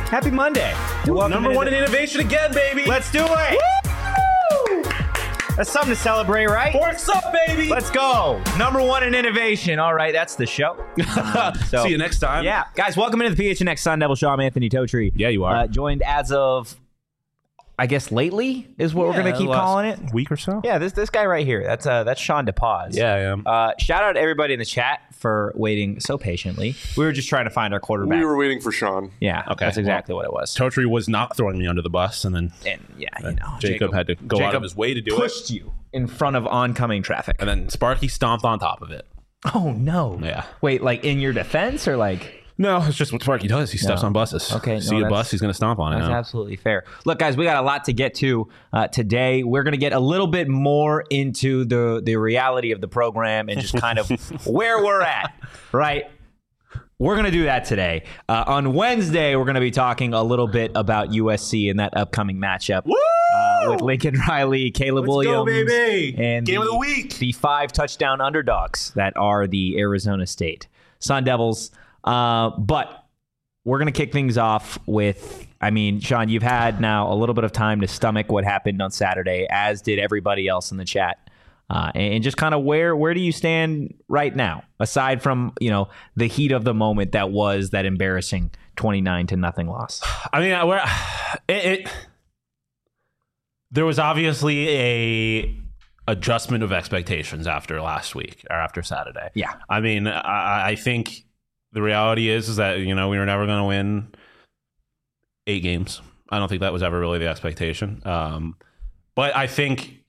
Happy Monday. Number one in innovation again, baby. Let's do it. Woo! That's something to celebrate, right? Forks up, baby. Let's go. Number one in innovation. All right, that's the show. See you next time. Yeah. Guys, welcome into the PHNX Sun Devil Show. I'm Anthony Totri. Yeah, you are. Joined as of, I guess, lately is what we're going to keep calling it. Week or so? Yeah, this guy right here. That's Sean DePaz. Yeah, I am. Shout out to everybody in the chat for waiting so patiently. We were just trying to find our quarterback. We were waiting for Sean. Yeah, Okay. That's exactly what it was. Totri was not throwing me under the bus, and then Jacob had to go out of his way to do it. Pushed you in front of oncoming traffic. And then Sparky stomped on top of it. Oh, no. Yeah. Wait, like in your defense or like... No, it's just what Sparky does. He steps on buses. Okay, See a bus, he's going to stomp on it. That's now. absolutely fair. Look, guys, we got a lot to get to today. We're going to get a little bit more into the reality of the program and just kind of where we're at, right? We're going to do that today. On Wednesday, we're going to be talking a little bit about USC and that upcoming matchup with Lincoln Riley, Caleb Williams, go, baby. And Game of the week. The 5 touchdown underdogs that are the Arizona State Sun Devils. But we're going to kick things off with, I mean, Sean, you've had now a little bit of time to stomach what happened on Saturday, as did everybody else in the chat. And just kind of where do you stand right now, aside from, the heat of the moment that was that embarrassing 29-0 loss? I mean, there was obviously a adjustment of expectations after last week or after Saturday. Yeah. I mean, I think the reality is that, we were never going to win 8 games. I don't think that was ever really the expectation. But I think,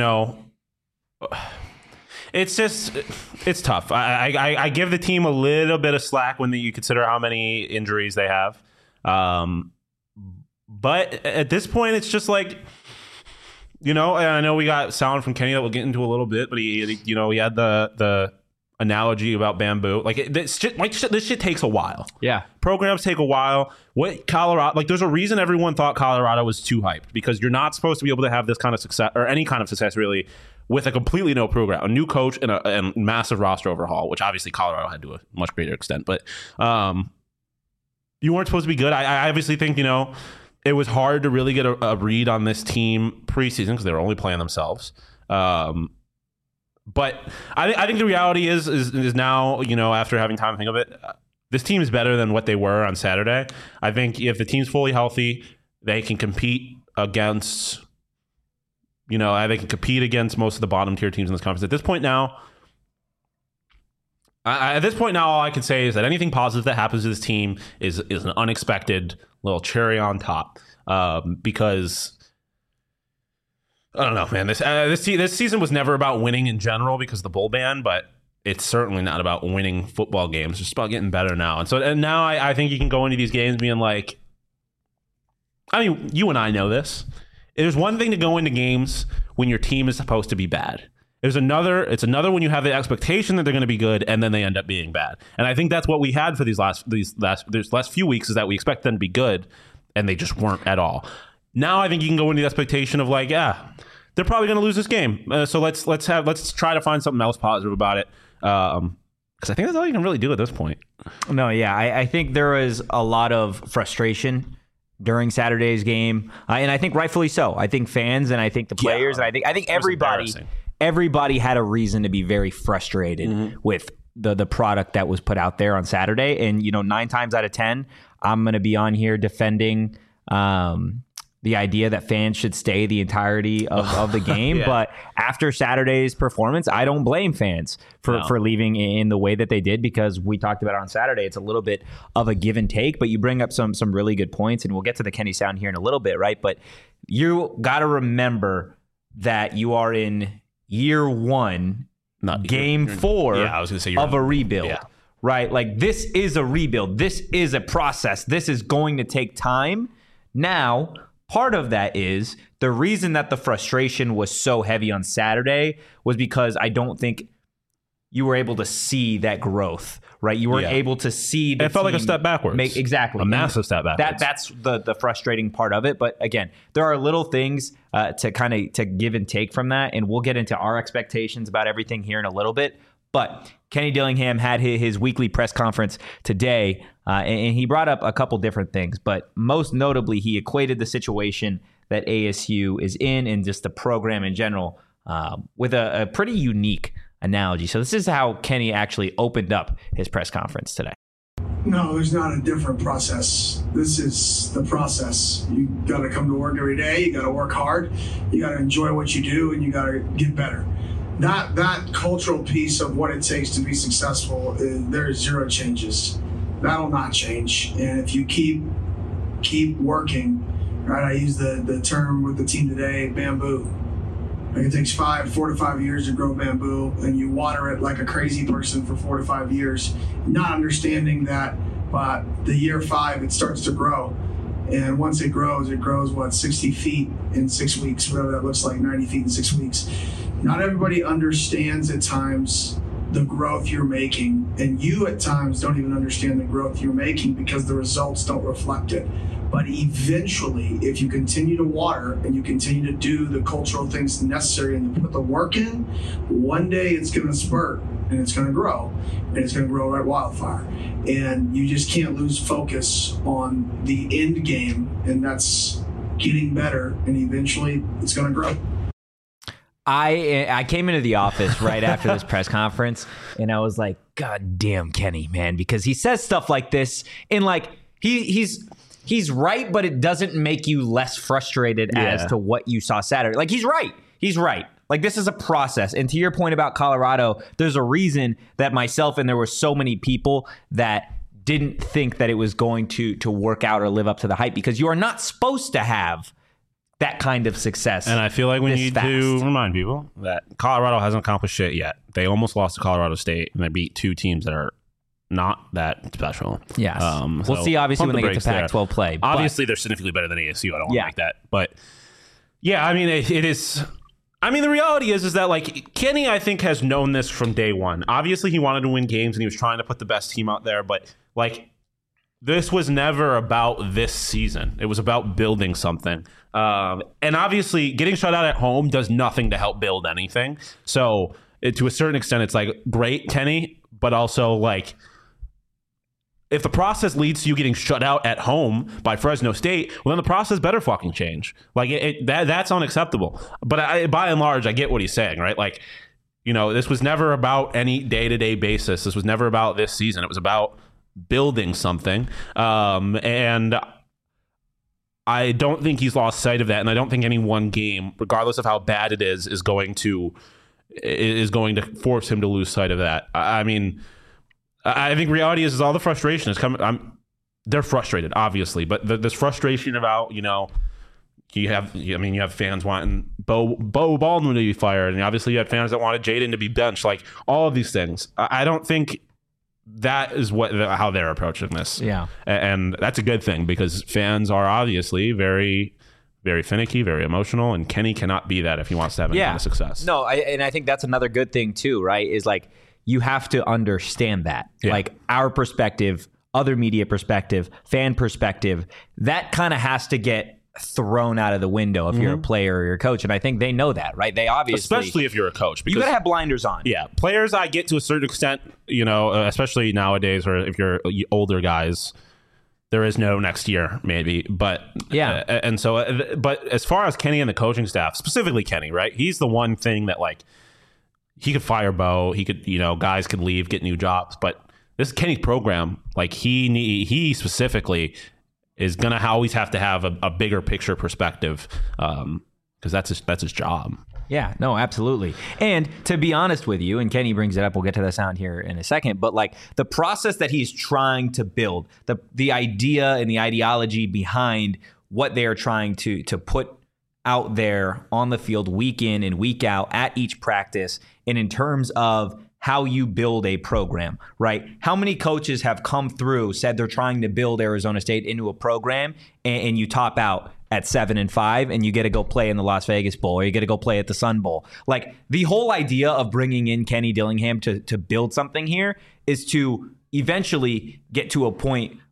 it's tough. I give the team a little bit of slack when you consider how many injuries they have. But at this point, it's just like, and I know we got sound from Kenny that we'll get into a little bit, but he had the analogy about bamboo. Like this shit takes a while. Yeah. Programs take a while. What Colorado, there's a reason everyone thought Colorado was too hyped, because you're not supposed to be able to have this kind of success, or any kind of success really, with a completely new program, a new coach, and a massive roster overhaul, which obviously Colorado had to a much greater extent. But you weren't supposed to be good. I obviously think, it was hard to really get a read on this team preseason because they were only playing themselves. But I think the reality is now, after having time to think of it, this team is better than what they were on Saturday. I think if the team's fully healthy, they can compete against, most of the bottom tier teams in this conference. At this point now, all I can say is that anything positive that happens to this team is an unexpected little cherry on top, because I don't know, man. This season was never about winning in general because of the bowl ban, but it's certainly not about winning football games. It's just about getting better now. And now I think you can go into these games being like, I mean, you and I know this. There's one thing to go into games when your team is supposed to be bad. It's another when you have the expectation that they're going to be good and then they end up being bad. And I think that's what we had for these last few weeks, is that we expect them to be good and they just weren't at all. Now I think you can go into the expectation of like, they're probably going to lose this game. So let's try to find something else positive about it. Because I think that's all you can really do at this point. No, yeah. I think there was a lot of frustration during Saturday's game. And I think rightfully so. I think fans and I think the players and I think everybody had a reason to be very frustrated with the product that was put out there on Saturday. And, 9 times out of 10, I'm going to be on here defending the idea that fans should stay the entirety of the game. Yeah. But after Saturday's performance, I don't blame fans for leaving in the way that they did, because we talked about it on Saturday. It's a little bit of a give and take, but you bring up some really good points, and we'll get to the Kenny Sound here in a little bit, right? But you got to remember that you are in year 1, game 4 I was gonna say of a rebuild, right? Like, this is a rebuild. This is a process. This is going to take time. Now, part of that is the reason that the frustration was so heavy on Saturday was because I don't think you were able to see that growth, right? You weren't able to see the It felt like a step backwards. Exactly. A massive step backwards. That's the frustrating part of it. But again, there are little things to give and take from that. And we'll get into our expectations about everything here in a little bit. But Kenny Dillingham had his weekly press conference today, and he brought up a couple different things, but most notably, he equated the situation that ASU is in and just the program in general with a pretty unique analogy. So this is how Kenny actually opened up his press conference today. No, there's not a different process. This is the process. You got to come to work every day. You got to work hard. You got to enjoy what you do, and you got to get better. That cultural piece of what it takes to be successful, there's zero changes. That'll not change. And if you keep working, right? I use the term with the team today, bamboo. Like it takes 4 to 5 years to grow bamboo, and you water it like a crazy person for 4 to 5 years, not understanding that by the year 5 it starts to grow. And once it grows, 60 feet in 6 weeks, whatever that looks like, 90 feet in 6 weeks. Not everybody understands at times the growth you're making, and you at times don't even understand the growth you're making because the results don't reflect it. But eventually, if you continue to water and you continue to do the cultural things necessary and you put the work in, one day it's going to spurt and it's going to grow, and it's going to grow like wildfire. And you just can't lose focus on the end game, and that's getting better, and eventually it's going to grow. I came into the office right after this press conference, and I was like, God damn Kenny, man, because he says stuff like this, and like he's right, but it doesn't make you less frustrated as to what you saw Saturday. Like he's right. Like this is a process, and to your point about Colorado, there's a reason that myself and there were so many people that didn't think that it was going to work out or live up to the hype, because you are not supposed to have that kind of success. And I feel like we need to remind people that Colorado hasn't accomplished shit yet. They almost lost to Colorado State, and they beat 2 teams that are not that special. Yes. We'll see, obviously, when they get to Pac-12 play. Obviously, they're significantly better than ASU. I don't want to make that. But, yeah, I mean, it is... I mean, the reality is that, like, Kenny, I think, has known this from day one. Obviously, he wanted to win games, and he was trying to put the best team out there. But, like, this was never about this season. It was about building something. And obviously, getting shut out at home does nothing to help build anything. So, to a certain extent, it's like, great, Kenny, but also, like, if the process leads to you getting shut out at home by Fresno State, well, then the process better fucking change. Like, that's unacceptable. But by and large, I get what he's saying, right? Like, you know, this was never about any day-to-day basis. This was never about this season. It was about building something. And I don't think he's lost sight of that, and I don't think any one game, regardless of how bad it is going to force him to lose sight of that. I mean, I think reality is all the frustration is coming. They're frustrated, obviously, but this frustration about, you know, you have fans wanting Bo Baldwin to be fired, and obviously you had fans that wanted Jaden to be benched. Like, all of these things, I don't think that is how they're approaching this. Yeah, and that's a good thing, because fans are obviously very, very finicky, very emotional, and Kenny cannot be that if he wants to have any kind of success. No, and I think that's another good thing too, right? Is like, you have to understand that, like, our perspective, other media perspective, fan perspective, that kind of has to get thrown out of the window if you're a player or you're a coach. And I think they know that, right? They obviously, especially if you're a coach, because you gotta have blinders on. Yeah, players, I get to a certain extent, you know, especially nowadays, or if you're older guys, there is no next year, maybe. But yeah, and so, but as far as Kenny and the coaching staff, specifically Kenny, right? He's the one thing that, like, he could fire Bo. He could, you know, guys could leave, get new jobs. But this is Kenny's program. Like, he specifically is going to always have to have a bigger picture perspective, because that's his job. Yeah, no, absolutely. And to be honest with you, and Kenny brings it up, we'll get to the sound here in a second, but like, the process that he's trying to build, the idea and the ideology behind what they are trying to put out there on the field week in and week out at each practice, and in terms of how you build a program, right? How many coaches have come through, said they're trying to build Arizona State into a program, and you top out at 7-5 and you get to go play in the Las Vegas Bowl, or you get to go play at the Sun Bowl? Like, the whole idea of bringing in Kenny Dillingham to build something here is to eventually get to a point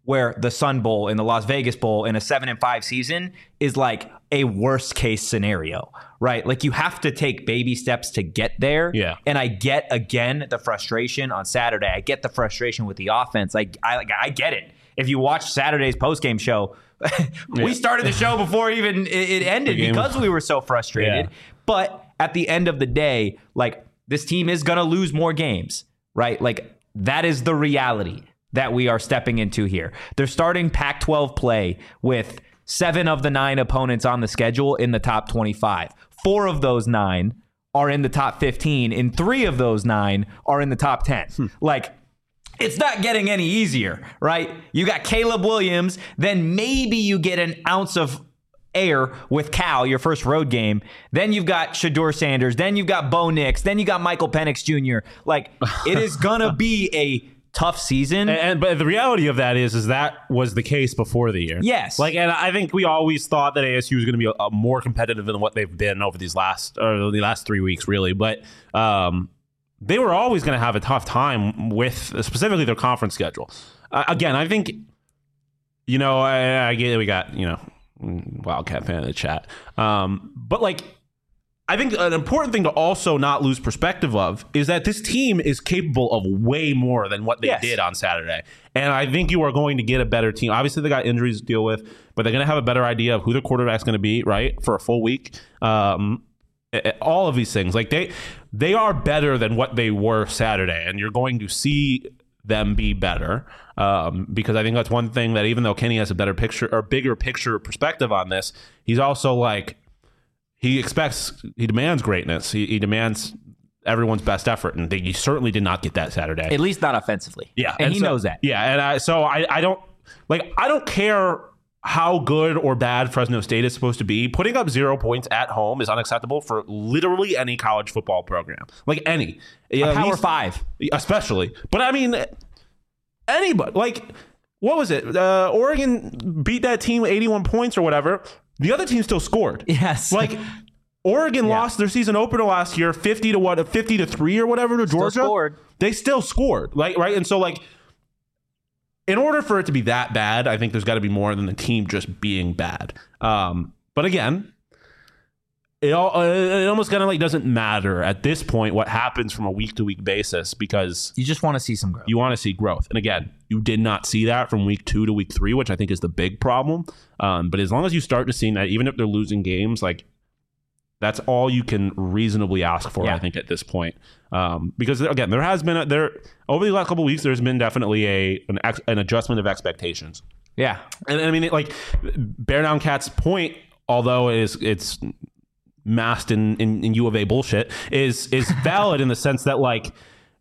where the Sun Bowl and the Las Vegas Bowl in a 7-5 season is like a worst case scenario, right? Like you have to take baby steps to get there. Yeah. And I get, again, the frustration on Saturday. I get the frustration with the offense. I get it. If you watch Saturday's postgame show, we started the show before even it ended because we were so frustrated. Yeah. But at the end of the day, like this team is going to lose more games, right? Like that is the reality that we are stepping into here. They're starting Pac-12 play with 7 of the 9 opponents on the schedule in the top 25. 4 of those 9 are in the top 15, and 3 of those 9 are in the top 10. Like, it's not getting any easier, right? You got Caleb Williams, then maybe you get an ounce of air with Cal, your first road game. Then you've got Shedeur Sanders. Then you've got Bo Nix. Then you got Michael Penix Jr. Like, it is going to be a tough season. But the reality of that is that was the case before the year. Yes. Like, and I think we always thought that ASU was going to be more competitive than what they've been over the last 3 weeks, really. But they were always going to have a tough time with specifically their conference schedule. Again, I think, I get we got, Wildcat fan in the chat. But like, I think an important thing to also not lose perspective of is that this team is capable of way more than what they did on Saturday. And I think you are going to get a better team. Obviously, they got injuries to deal with, but they're going to have a better idea of who their quarterback's going to be, right, for a full week. All of these things. Like, they are better than what they were Saturday, and you're going to see them be better because I think that's one thing that even though Kenny has a better picture or bigger picture perspective on this, he's also like, he demands greatness. He demands everyone's best effort, and he certainly did not get that Saturday. At least not offensively. Yeah, and he knows that. Yeah, and I don't care how good or bad Fresno State is supposed to be. Putting up 0 points at home is unacceptable for literally any college football program, like any Power 5, especially. But I mean, anybody. Like, what was it? Oregon beat that team 81 points or whatever. The other team still scored. Yes. Like, Oregon lost their season opener last year 50-3 or whatever to Georgia. Still scored. They still scored. Like, right? And so, like, in order for it to be that bad, I think there's got to be more than the team just being bad. But again, it almost kind of like doesn't matter at this point what happens from a week-to-week basis because you just want to see some growth. You want to see growth. And again, you did not see that from week 2 to week 3, which I think is the big problem. But as long as you start to see that, even if they're losing games, like that's all you can reasonably ask for, I think, at this point. Because again, there has been over the last couple of weeks, there's been definitely an adjustment of expectations. Yeah, and I mean, like Bear Down Cat's point, although it's masked in U of A bullshit, is valid in the sense that like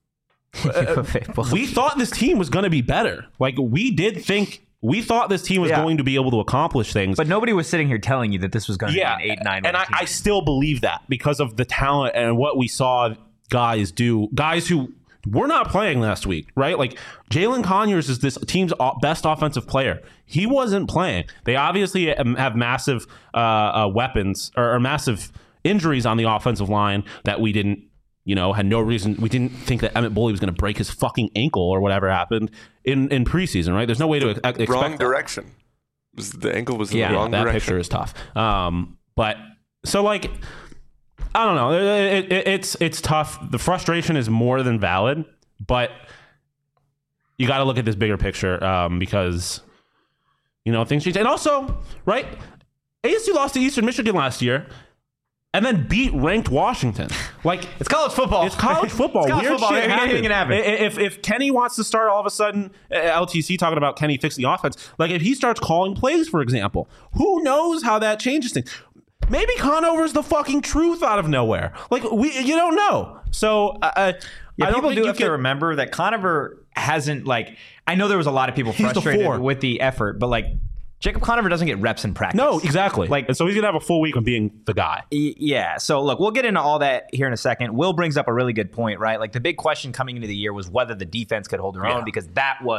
we thought this team was going to be better. Like we thought this team was going to be able to accomplish things. But nobody was sitting here telling you that this was going to be an 8-9 and I still believe that because of the talent and what we saw guys do. Guys who were not playing last week, right? Like Jalen Conyers is this team's best offensive player. He wasn't playing. They obviously have massive weapons or massive injuries on the offensive line that we didn't, had no reason. We didn't think that Emmett Bully was going to break his fucking ankle or whatever happened in preseason, right? There's no way to expect wrong direction. The ankle was in the wrong that direction. Picture is tough. But so like, I don't know. It's tough. The frustration is more than valid, but you got to look at this bigger picture because things change. And also, right? ASU lost to Eastern Michigan last year. And then beat ranked Washington. Like it's college football. It's college football. It's college Weird football. shit Anything can happen. If Kenny wants to start all of a sudden, LTC talking about Kenny fixing the offense. Like if he starts calling plays, for example, who knows how that changes things? Maybe Conover's the fucking truth out of nowhere. Like you don't know. So people do have to remember that Conover hasn't I know there was a lot of people frustrated with the effort, but Jacob Conover doesn't get reps in practice. No, exactly. And so he's going to have a full week of being the guy. Yeah. So, look, we'll get into all that here in a second. Will brings up a really good point, right? The big question coming into the year was whether the defense could hold their own because that was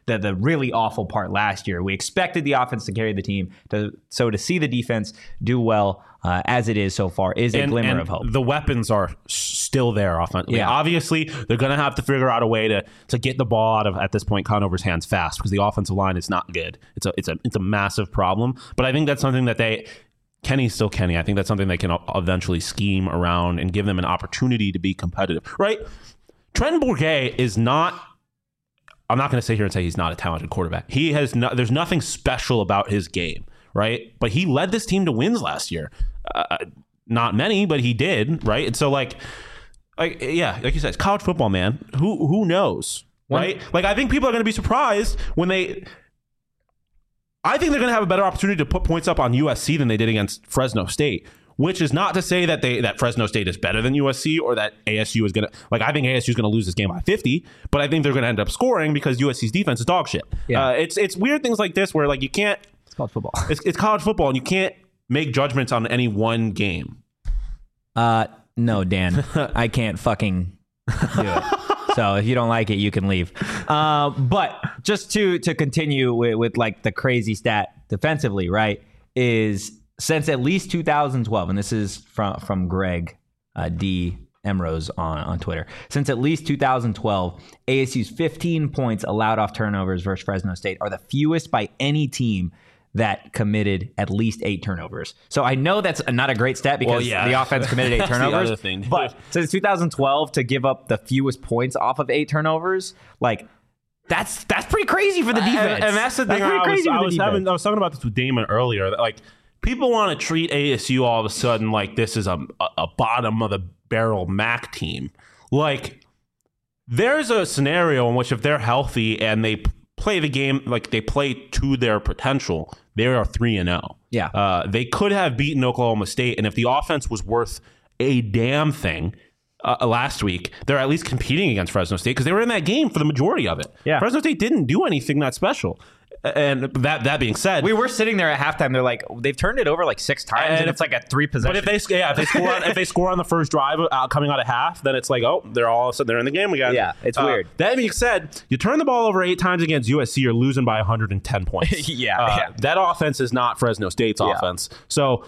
the really awful part last year. We expected the offense to carry the team. So to see the defense do well as it is so far is a glimmer of hope. The weapons are still there offensively. Yeah. Obviously, they're going to have to figure out a way to get the ball out of, at this point, Conover's hands fast because the offensive line is not good. It's a massive problem. But I think that's something that Kenny's still Kenny. I think that's something they can eventually scheme around and give them an opportunity to be competitive. Right? Trenton Bourguet is not... I'm not going to sit here and say he's not a talented quarterback. There's nothing special about his game, right? But he led this team to wins last year. Not many, but he did, right? And so, like you said, it's college football, man. Who knows, right? Like, I think people are going to be surprised when I think they're going to have a better opportunity to put points up on USC than they did against Fresno State. Which is not to say that Fresno State is better than USC or that ASU is going to... Like, I think ASU is going to lose this game by 50, but I think they're going to end up scoring because USC's defense is dog shit. Yeah. It's weird things like this where, like, you can't... It's college football. It's college football, and you can't make judgments on any one game. No, Dan. I can't fucking do it. So if you don't like it, you can leave. But just to continue with like the crazy stat defensively, right, is... Since at least 2012, and this is from Greg D. Emrose on Twitter. Since at least 2012, ASU's 15 points allowed off turnovers versus Fresno State are the fewest by any team that committed at least 8 turnovers. So I know that's not a great stat because the offense committed 8 turnovers. The other thing. But since 2012, to give up the fewest points off of 8 turnovers, like... That's pretty crazy for the defense. And that's the thing. I was talking about this with Damon earlier. That, like, people want to treat ASU all of a sudden like this is a bottom of the barrel MAC team. Like, there's a scenario in which if they're healthy and they play the game like they play to their potential, they are 3-0. Yeah. They could have beaten Oklahoma State, and if the offense was worth a damn thing last week, they're at least competing against Fresno State because they were in that game for the majority of it. Yeah. Fresno State didn't do anything that special. And that being said, we were sitting there at halftime. They're like, they've turned it over like 6 times, and it's like a 3 possession. But if they score on the first drive coming out of half, then it's like, oh, they're all of a sudden they're in the game again. Yeah, it's weird. That being said, you turn the ball over 8 times against USC, you're losing by 110 points. That offense is not Fresno State's offense. So,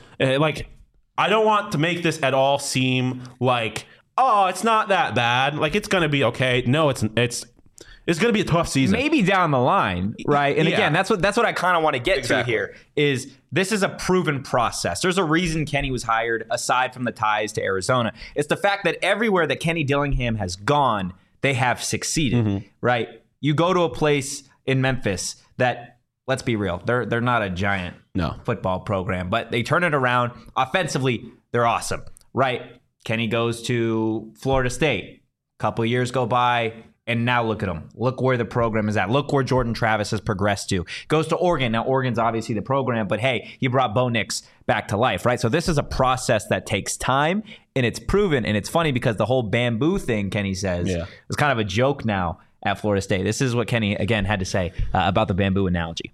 I don't want to make this at all seem like, oh, it's not that bad. Like, it's going to be okay. No, it's going to be a tough season. Maybe down the line, right? And again, that's what I kind of want to get to here is this is a proven process. There's a reason Kenny was hired aside from the ties to Arizona. It's the fact that everywhere that Kenny Dillingham has gone, they have succeeded, right? You go to a place in Memphis that, let's be real, they're not a giant football program, but they turn it around. Offensively, they're awesome, right? Kenny goes to Florida State. A couple of years go by, and now look at him. Look where the program is at. Look where Jordan Travis has progressed to. Goes to Oregon. Now, Oregon's obviously the program, but hey, he brought Bo Nix back to life, right? So this is a process that takes time, and it's proven. And it's funny because the whole bamboo thing, Kenny says, is kind of a joke now at Florida State. This is what Kenny, again, had to say about the bamboo analogy.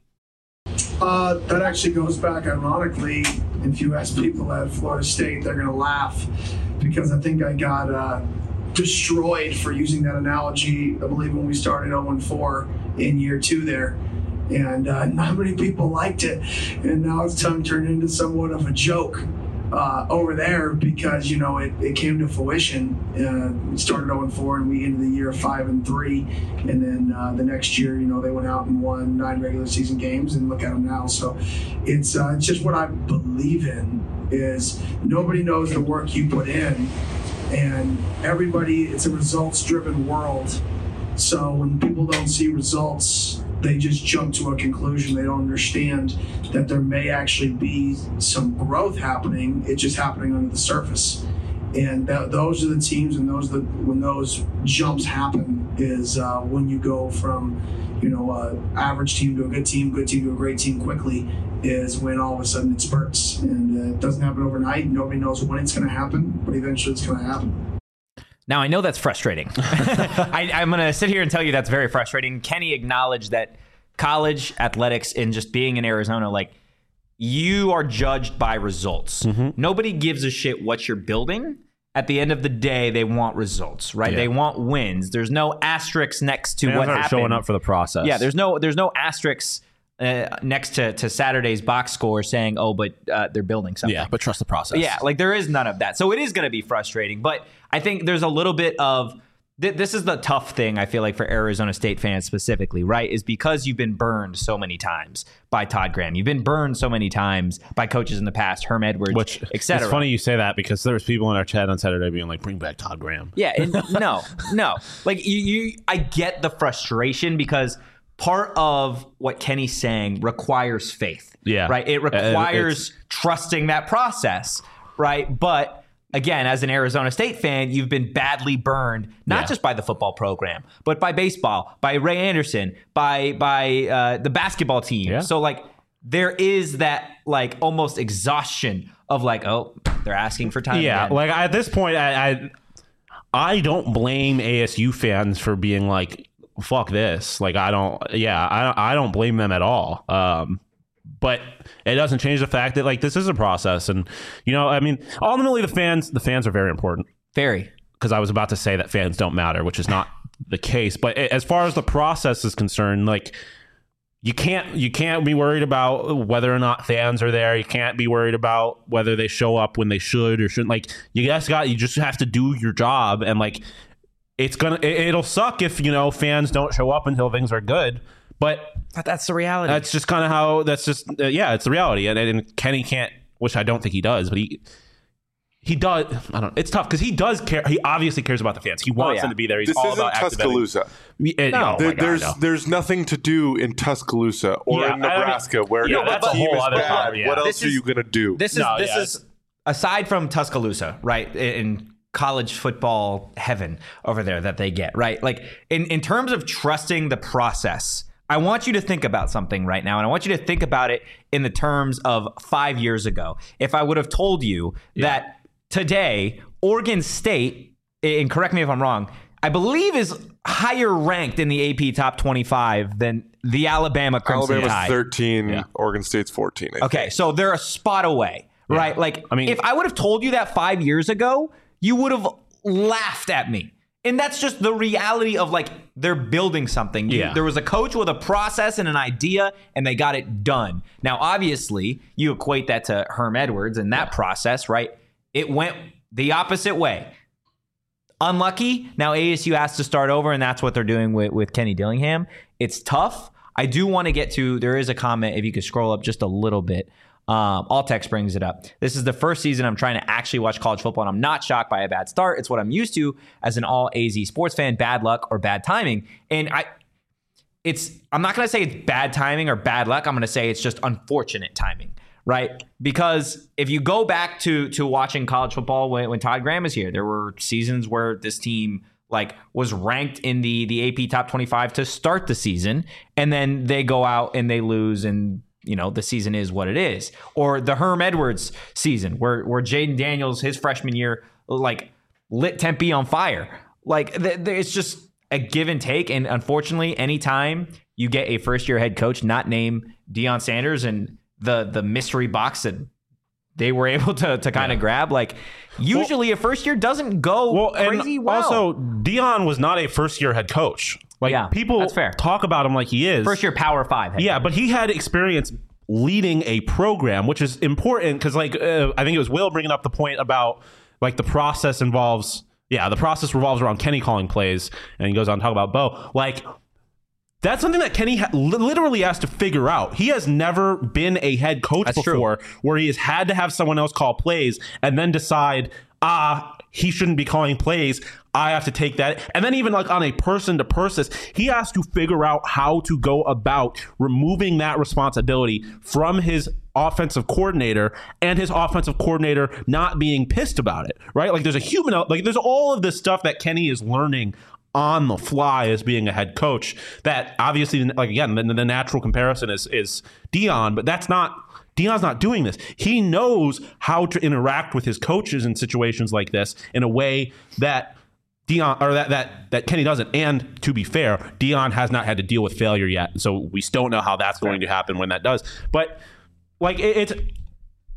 That actually goes back, ironically, if you ask people at Florida State, they're going to laugh because I think I got destroyed for using that analogy, I believe, when we started 0-4 in year 2 there. And not many people liked it. And now it's turned into somewhat of a joke over there because, it came to fruition. We started 0-4 and we ended the year 5-3. And then the next year, they went out and won 9 regular season games, and look at them now. So it's just what I believe in is nobody knows the work you put in. And it's a results-driven world. So when people don't see results, they just jump to a conclusion. They don't understand that there may actually be some growth happening. It's just happening under the surface. And those are the teams, and when those jumps happen is when you go from, average team to a good team to a great team quickly is when all of a sudden it spurts. And it doesn't happen overnight. Nobody knows when it's going to happen, but eventually it's going to happen. Now, I know that's frustrating. I'm going to sit here and tell you that's very frustrating. Kenny acknowledged that college athletics and just being in Arizona, like, you are judged by results. Nobody gives a shit what you're building at the end of the day, they want results, right? Yeah. They want wins. There's no asterisks next to Fans what aren't happened. showing up for the process. Yeah, there's no asterisks next to Saturday's box score saying, oh, but they're building something. Yeah, but trust the process. Yeah, like there is none of that. So it is going to be frustrating. But I think there's a little bit of this is the tough thing, I feel like, for Arizona State fans specifically, right? Is because you've been burned so many times by Todd Graham. You've been burned so many times by coaches in the past, Herm Edwards, etc. It's funny you say that because there was people in our chat on Saturday being like, bring back Todd Graham. Yeah, and no. Like I get the frustration because part of what Kenny's saying requires faith. Yeah. Right? It requires trusting that process, right? But again, as an Arizona State fan, you've been badly burned, not just by the football program, but by baseball, by Ray Anderson, by the basketball team. Yeah. So like there is that like almost exhaustion of like, oh, they're asking for time. Yeah, again. like at this point, I don't blame ASU fans for being like, fuck this. Like I don't blame them at all. But it doesn't change the fact that like this is a process, and I mean, ultimately the fans are very important. Very. Because I was about to say that fans don't matter, which is not the case. But as far as the process is concerned, like you can't be worried about whether or not fans are there. You can't be worried about whether they show up when they should or shouldn't. Like you just have to do your job, and like it'll suck if fans don't show up until things are good. But that's the reality. That's just kind of how. That's just it's the reality. And Kenny can't, which I don't think he does, but he does. I don't. It's tough because he does care. He obviously cares about the fans. He wants them to be there. He's this all isn't about Tuscaloosa. There's nothing to do in Tuscaloosa or in Nebraska where the team is bad. What else are you going to do? This is aside from Tuscaloosa, right? In college football heaven over there that they get, right? Like in terms of trusting the process, I want you to think about something right now, and I want you to think about it in the terms of 5 years ago. If I would have told you that today, Oregon State, and correct me if I'm wrong, I believe is higher ranked in the AP top 25 than the Alabama Crimson Tide. Alabama's 13, Oregon State's 14. I think. So they're a spot away, right? Like, I mean, if I would have told you that 5 years ago, you would have laughed at me. And that's just the reality of like they're building something. There was a coach with a process and an idea, and they got it done. Now, obviously, you equate that to Herm Edwards and that process, right? It went the opposite way. Unlucky. Now ASU has to start over, and that's what they're doing with Kenny Dillingham. It's tough. I do want to get to, there is a comment, if you could scroll up just a little bit. Altex brings it up. This is the first season I'm trying to actually watch college football, and I'm not shocked by a bad start. It's what I'm used to as an all AZ sports fan. Bad luck or bad timing. And I'm not going to say it's bad timing or bad luck. I'm going to say it's just unfortunate timing, right? Because if you go back to watching college football when Todd Graham was here, there were seasons where this team like was ranked in the AP top 25 to start the season, and then they go out and they lose, and the season is what it is. Or the Herm Edwards season where Jaden Daniels, his freshman year, like lit Tempe on fire. Like it's just a give and take. And unfortunately, anytime you get a first year head coach not named Deion Sanders and the mystery box that they were able to kind of grab, like usually a first year doesn't go crazy well. Also, Deion was not a first year head coach. Like people talk about him like he is. First year Power 5. But he had experience leading a program, which is important because like I think it was Will bringing up the point about like the process revolves around Kenny calling plays, and he goes on to talk about Bo. Like that's something that Kenny literally has to figure out. He has never been a head coach before where he has had to have someone else call plays and then decide, he shouldn't be calling plays. I have to take that. And then even like on a person to person, he has to figure out how to go about removing that responsibility from his offensive coordinator, and his offensive coordinator not being pissed about it, right? Like there's all of this stuff that Kenny is learning on the fly as being a head coach that obviously, like again, the natural comparison is Deion, but Deion's not doing this. He knows how to interact with his coaches in situations like this in a way that Deion or that Kenny doesn't. And to be fair, Deion has not had to deal with failure yet, so we still don't know how that's going to happen when that does. But like it's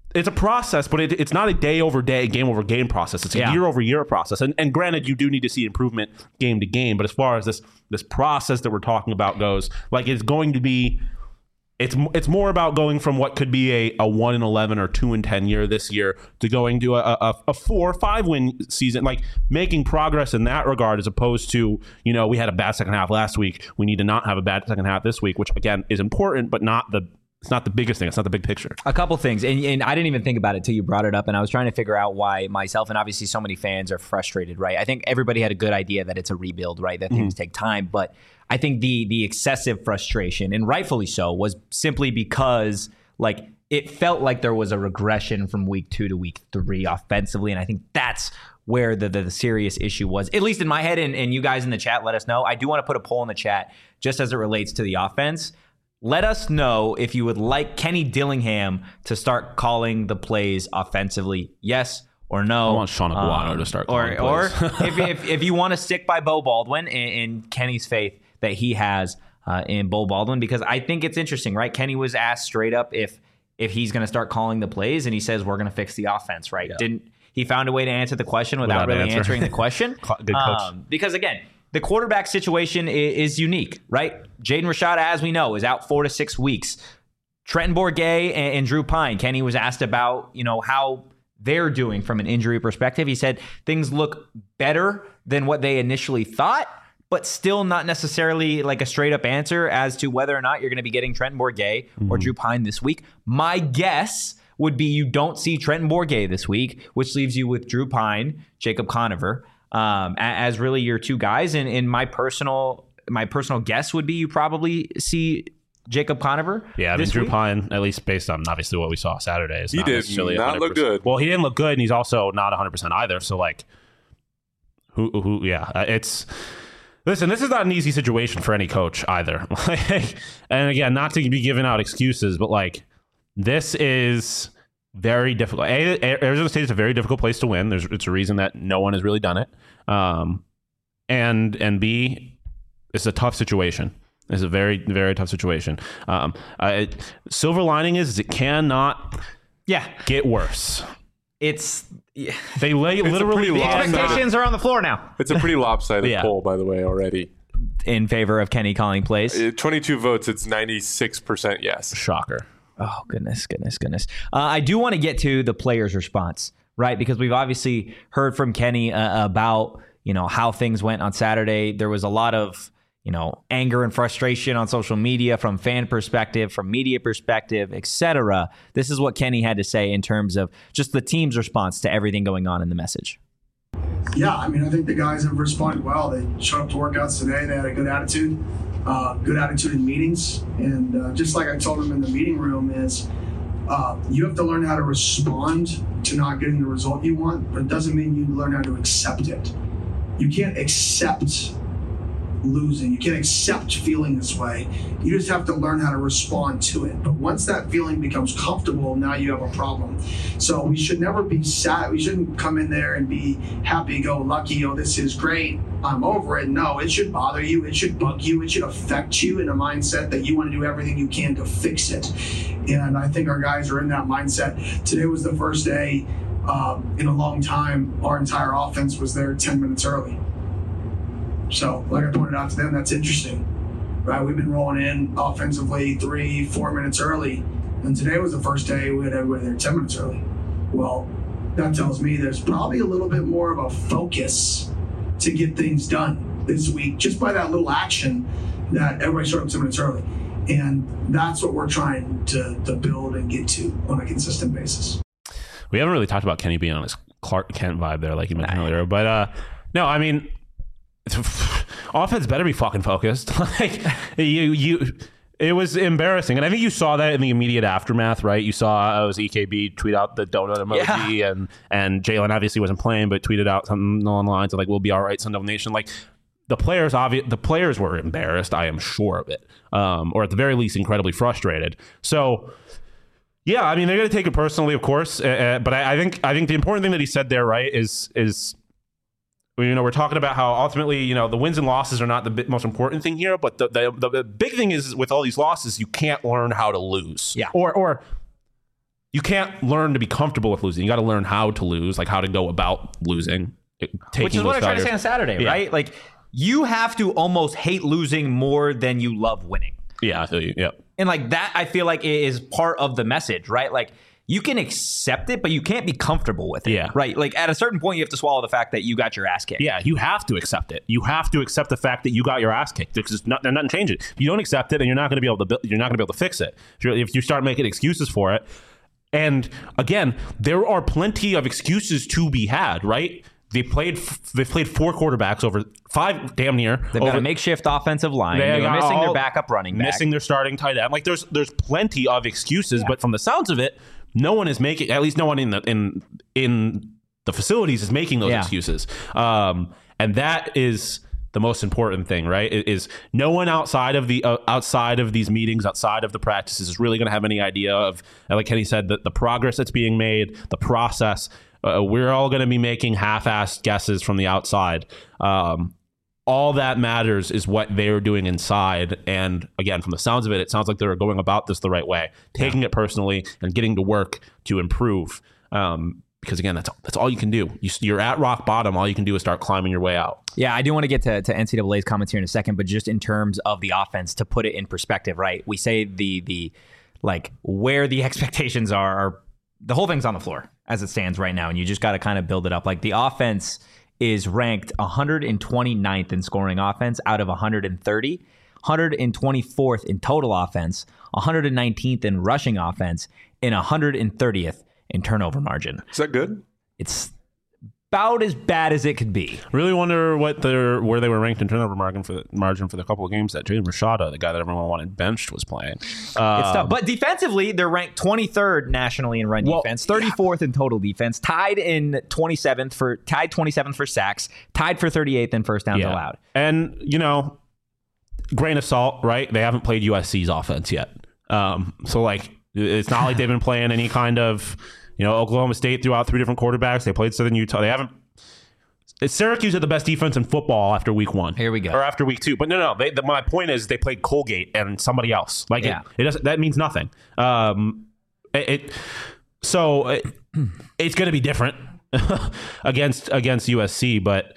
it's a process, but it's not a day over day, game over game process. It's a year over year process. And granted, you do need to see improvement game to game. But as far as this process that we're talking about goes, like it's going to be, it's more about going from what could be a 1-11 or 2-10 year this year to going to a 4 or 5 win season, like making progress in that regard, as opposed to, we had a bad second half last week. We need to not have a bad second half this week, which again is important, but it's not the biggest thing. It's not the big picture. A couple things. And I didn't even think about it till you brought it up. And I was trying to figure out why myself and obviously so many fans are frustrated, right? I think everybody had a good idea that it's a rebuild, right? That things take time. But I think the excessive frustration, and rightfully so, was simply because like it felt like there was a regression from week 2 to week 3 offensively. And I think that's where the serious issue was, at least in my head. And you guys in the chat, let us know. I do want to put a poll in the chat just as it relates to the offense. Let us know if you would like Kenny Dillingham to start calling the plays offensively, yes or no. I want Sean Aguano to start calling plays. Or if you want to stick by Beau Baldwin and Kenny's faith that he has in Beau Baldwin, because I think it's interesting, right? Kenny was asked straight up if he's going to start calling the plays, and he says we're going to fix the offense, right? Yeah. He found a way to answer the question without really answering the question. Good coach. Because again, the quarterback situation is unique, right? Jaden Rashada, as we know, is out 4 to 6 weeks. Trenton Bourguet and Drew Pine, Kenny was asked about, how they're doing from an injury perspective. He said things look better than what they initially thought, but still not necessarily like a straight up answer as to whether or not you're going to be getting Trenton Bourguet or Drew Pine this week. My guess would be you don't see Trenton Bourguet this week, which leaves you with Drew Pine, Jacob Conover, as really your 2 guys. And my personal guess would be you probably see Jacob Conover. Yeah, I mean, Drew Pine, at least based on obviously what we saw Saturday, is he did not look good. Well, he didn't look good, and he's also not 100% either. So like, listen, this is not an easy situation for any coach either. And again, not to be giving out excuses, but like, this is very difficult. Arizona State is a very difficult place to win. It's a reason that no one has really done it. And B, it's a tough situation. It's a very, very tough situation. Silver lining is it cannot get worse. They literally the expectations are on the floor now. It's a pretty lopsided poll, by the way, already. In favor of Kenny calling plays? 22 votes, it's 96% yes. Shocker. Oh, goodness. I do want to get to the players' response, right? Because we've obviously heard from Kenny about, how things went on Saturday. There was a lot of, anger and frustration on social media from fan perspective, from media perspective, etc. This is what Kenny had to say in terms of just the team's response to everything going on in the message. Yeah, I mean, I think the guys have responded well. They showed up to workouts today. They had a good attitude in meetings. And just like I told them in the meeting room is you have to learn how to respond to not getting the result you want, but it doesn't mean you learn how to accept it. You can't accept losing. You can't accept feeling this way. You just have to learn how to respond to it. But once that feeling becomes comfortable, now you have a problem. So we should never be sad. We shouldn't come in there and be happy-go-lucky. Oh, this is great. I'm over it. No, it should bother you. It should bug you. It should affect you in a mindset that you want to do everything you can to fix it. And I think our guys are in that mindset. Today was the first day in a long time our entire offense was there 10 minutes early. So, like I pointed out to them, that's interesting, right? We've been rolling in offensively 3-4 minutes early, and today was the first day we had everybody there 10 minutes early. Well, that tells me there's probably a little bit more of a focus to get things done this week, just by that little action that everybody showed up 10 minutes early. And that's what we're trying to build and get to on a consistent basis. We haven't really talked about Kenny being on his Clark Kent vibe there, like you mentioned earlier, but no, I mean, offense better be fucking focused. Like it was embarrassing, and I think you saw that in the immediate aftermath, right? You saw it was EKB tweet out the donut emoji, and Jalen obviously wasn't playing, but tweeted out something along the lines of like, "We'll be all right, Sun Devil Nation." Like the players were embarrassed. I am sure of it, or at the very least, incredibly frustrated. So. Yeah, I mean they're going to take it personally, of course, but I think the important thing that he said there, right, is. We're talking about how ultimately, the wins and losses are not the most important thing here, but the big thing is with all these losses, you can't learn how to lose. Yeah. Or you can't learn to be comfortable with losing. You got to learn how to lose, like how to go about losing. Which is what I tried to say on Saturday, right? Like, you have to almost hate losing more than you love winning. Yeah, I feel you. Yeah. And like that, I feel like is part of the message, right? Like, you can accept it, but you can't be comfortable with it. Yeah. Right. Like, at a certain point, you have to swallow the fact that you got your ass kicked. Yeah, you have to accept it. You have to accept the fact that you got your ass kicked. Because nothing changes. If you don't accept it, then you're not going to be able to fix it. If you start making excuses for it. And again, there are plenty of excuses to be had, right? They played 4 quarterbacks over 5, damn near. They've got a makeshift offensive line. They're missing their backup running back. Missing their starting tight end. Like, there's plenty of excuses, but from the sounds of it, no one is making, at least no one in the facilities is making those excuses. And that is the most important thing, right? Is no one outside of these meetings, outside of the practices, is really going to have any idea of, like Kenny said, the progress that's being made, the process. We're all going to be making half-assed guesses from the outside. All that matters is what they're doing inside. And again, from the sounds of it, it sounds like they're going about this the right way, taking it personally and getting to work to improve. Because again, that's all you can do. You're at rock bottom. All you can do is start climbing your way out. Yeah, I do want to get to NCAA's comments here in a second, but just in terms of the offense, to put it in perspective, right? We say the like where the expectations are the whole thing's on the floor as it stands right now, and you just got to kind of build it up. Like, the offense is ranked 129th in scoring offense out of 130, 124th in total offense, 119th in rushing offense, and 130th in turnover margin. Is that good? It's about as bad as it could be. Really wonder where they were ranked in turnover margin for the couple of games that Jaden Rashada, the guy that everyone wanted benched, was playing. It's tough. But defensively, they're ranked 23rd nationally in run defense, 34th in total defense, tied 27th for sacks, tied for 38th in first downs allowed. And, grain of salt, right? They haven't played USC's offense yet. So, like, it's not like they've been playing any kind of... Oklahoma State threw out 3 different quarterbacks. They played Southern Utah. They haven't. Syracuse had the best defense in football after week 1. Here we go. Or after week 2. But no. My point is they played Colgate and somebody else. Like, it doesn't. That means nothing. It's going to be different against USC. But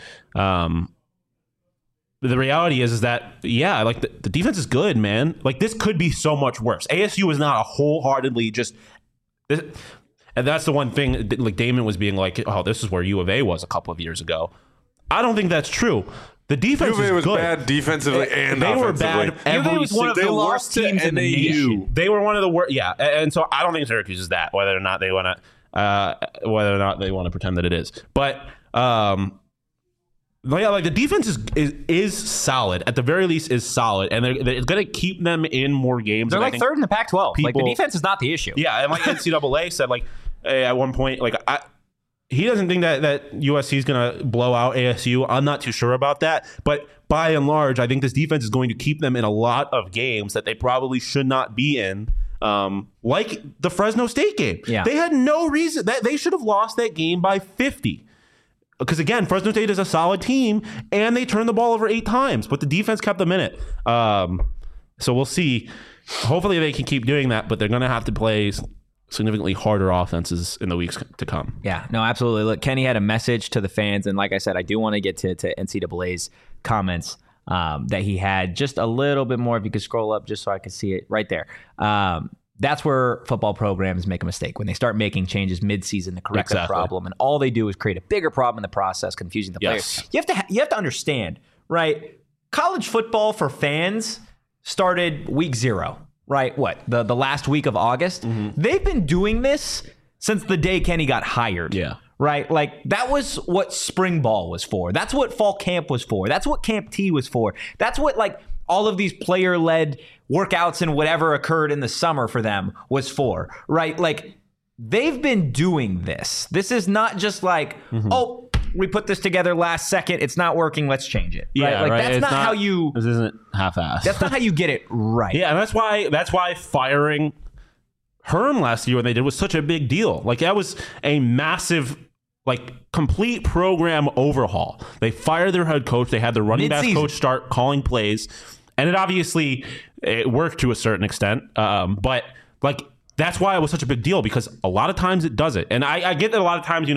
the reality is that like the defense is good, man. Like, this could be so much worse. ASU is not a wholeheartedly just. And that's the one thing, like Damon was being like, oh, this is where U of A was a couple of years ago. I don't think that's true. The defense U of A was good. Bad defensively and they offensively. Were bad. They was one of the worst teams in the nation. They were one of the worst. Yeah, and so I don't think Syracuse is that. Whether or not they want to pretend that it is, but like the defense is solid. At the very least, is solid, and it's going to keep them in more games. They're like 3rd in the Pac-12. Like, the defense is not the issue. Yeah, and like NCAA said, like at one point, like he doesn't think that USC is going to blow out ASU. I'm not too sure about that, but by and large, I think this defense is going to keep them in a lot of games that they probably should not be in. Like the Fresno State game. Yeah. They had no reason that they should have lost that game by 50. Because, again, Fresno State is a solid team, and they turned the ball over 8 times, but the defense kept them in it. So we'll see. Hopefully they can keep doing that, but they're going to have to play significantly harder offenses in the weeks to come. Yeah, no, absolutely. Look, Kenny had a message to the fans, and like I said, I do want to get to NCAA's comments that he had. Just a little bit more, if you could scroll up just so I could see it right there. That's where football programs make a mistake, when they start making changes mid-season to correct the problem, and all they do is create a bigger problem in the process, confusing the players. You have to understand, right? College football for fans started week 0, right? What, the last week of August? Mm-hmm. They've been doing this since the day Kenny got hired. Yeah. Right? Like, that was what spring ball was for. That's what fall camp was for. That's what Camp T was for. That's what, like, all of these player-led workouts and whatever occurred in the summer for them was for, right? Like, they've been doing this. This is not just like, oh, we put this together last second, it's not working, let's change it. Right? Yeah, like, right. That's not how you... This isn't half-assed. That's not how you get it right. Yeah, and that's why firing Herm last year when they did was such a big deal. Like, that was a massive... like, complete program overhaul. They fired their head coach. They had the running back coach start calling plays. And it obviously worked to a certain extent. But, like, that's why it was such a big deal, because a lot of times it does it. And I get that a lot of times,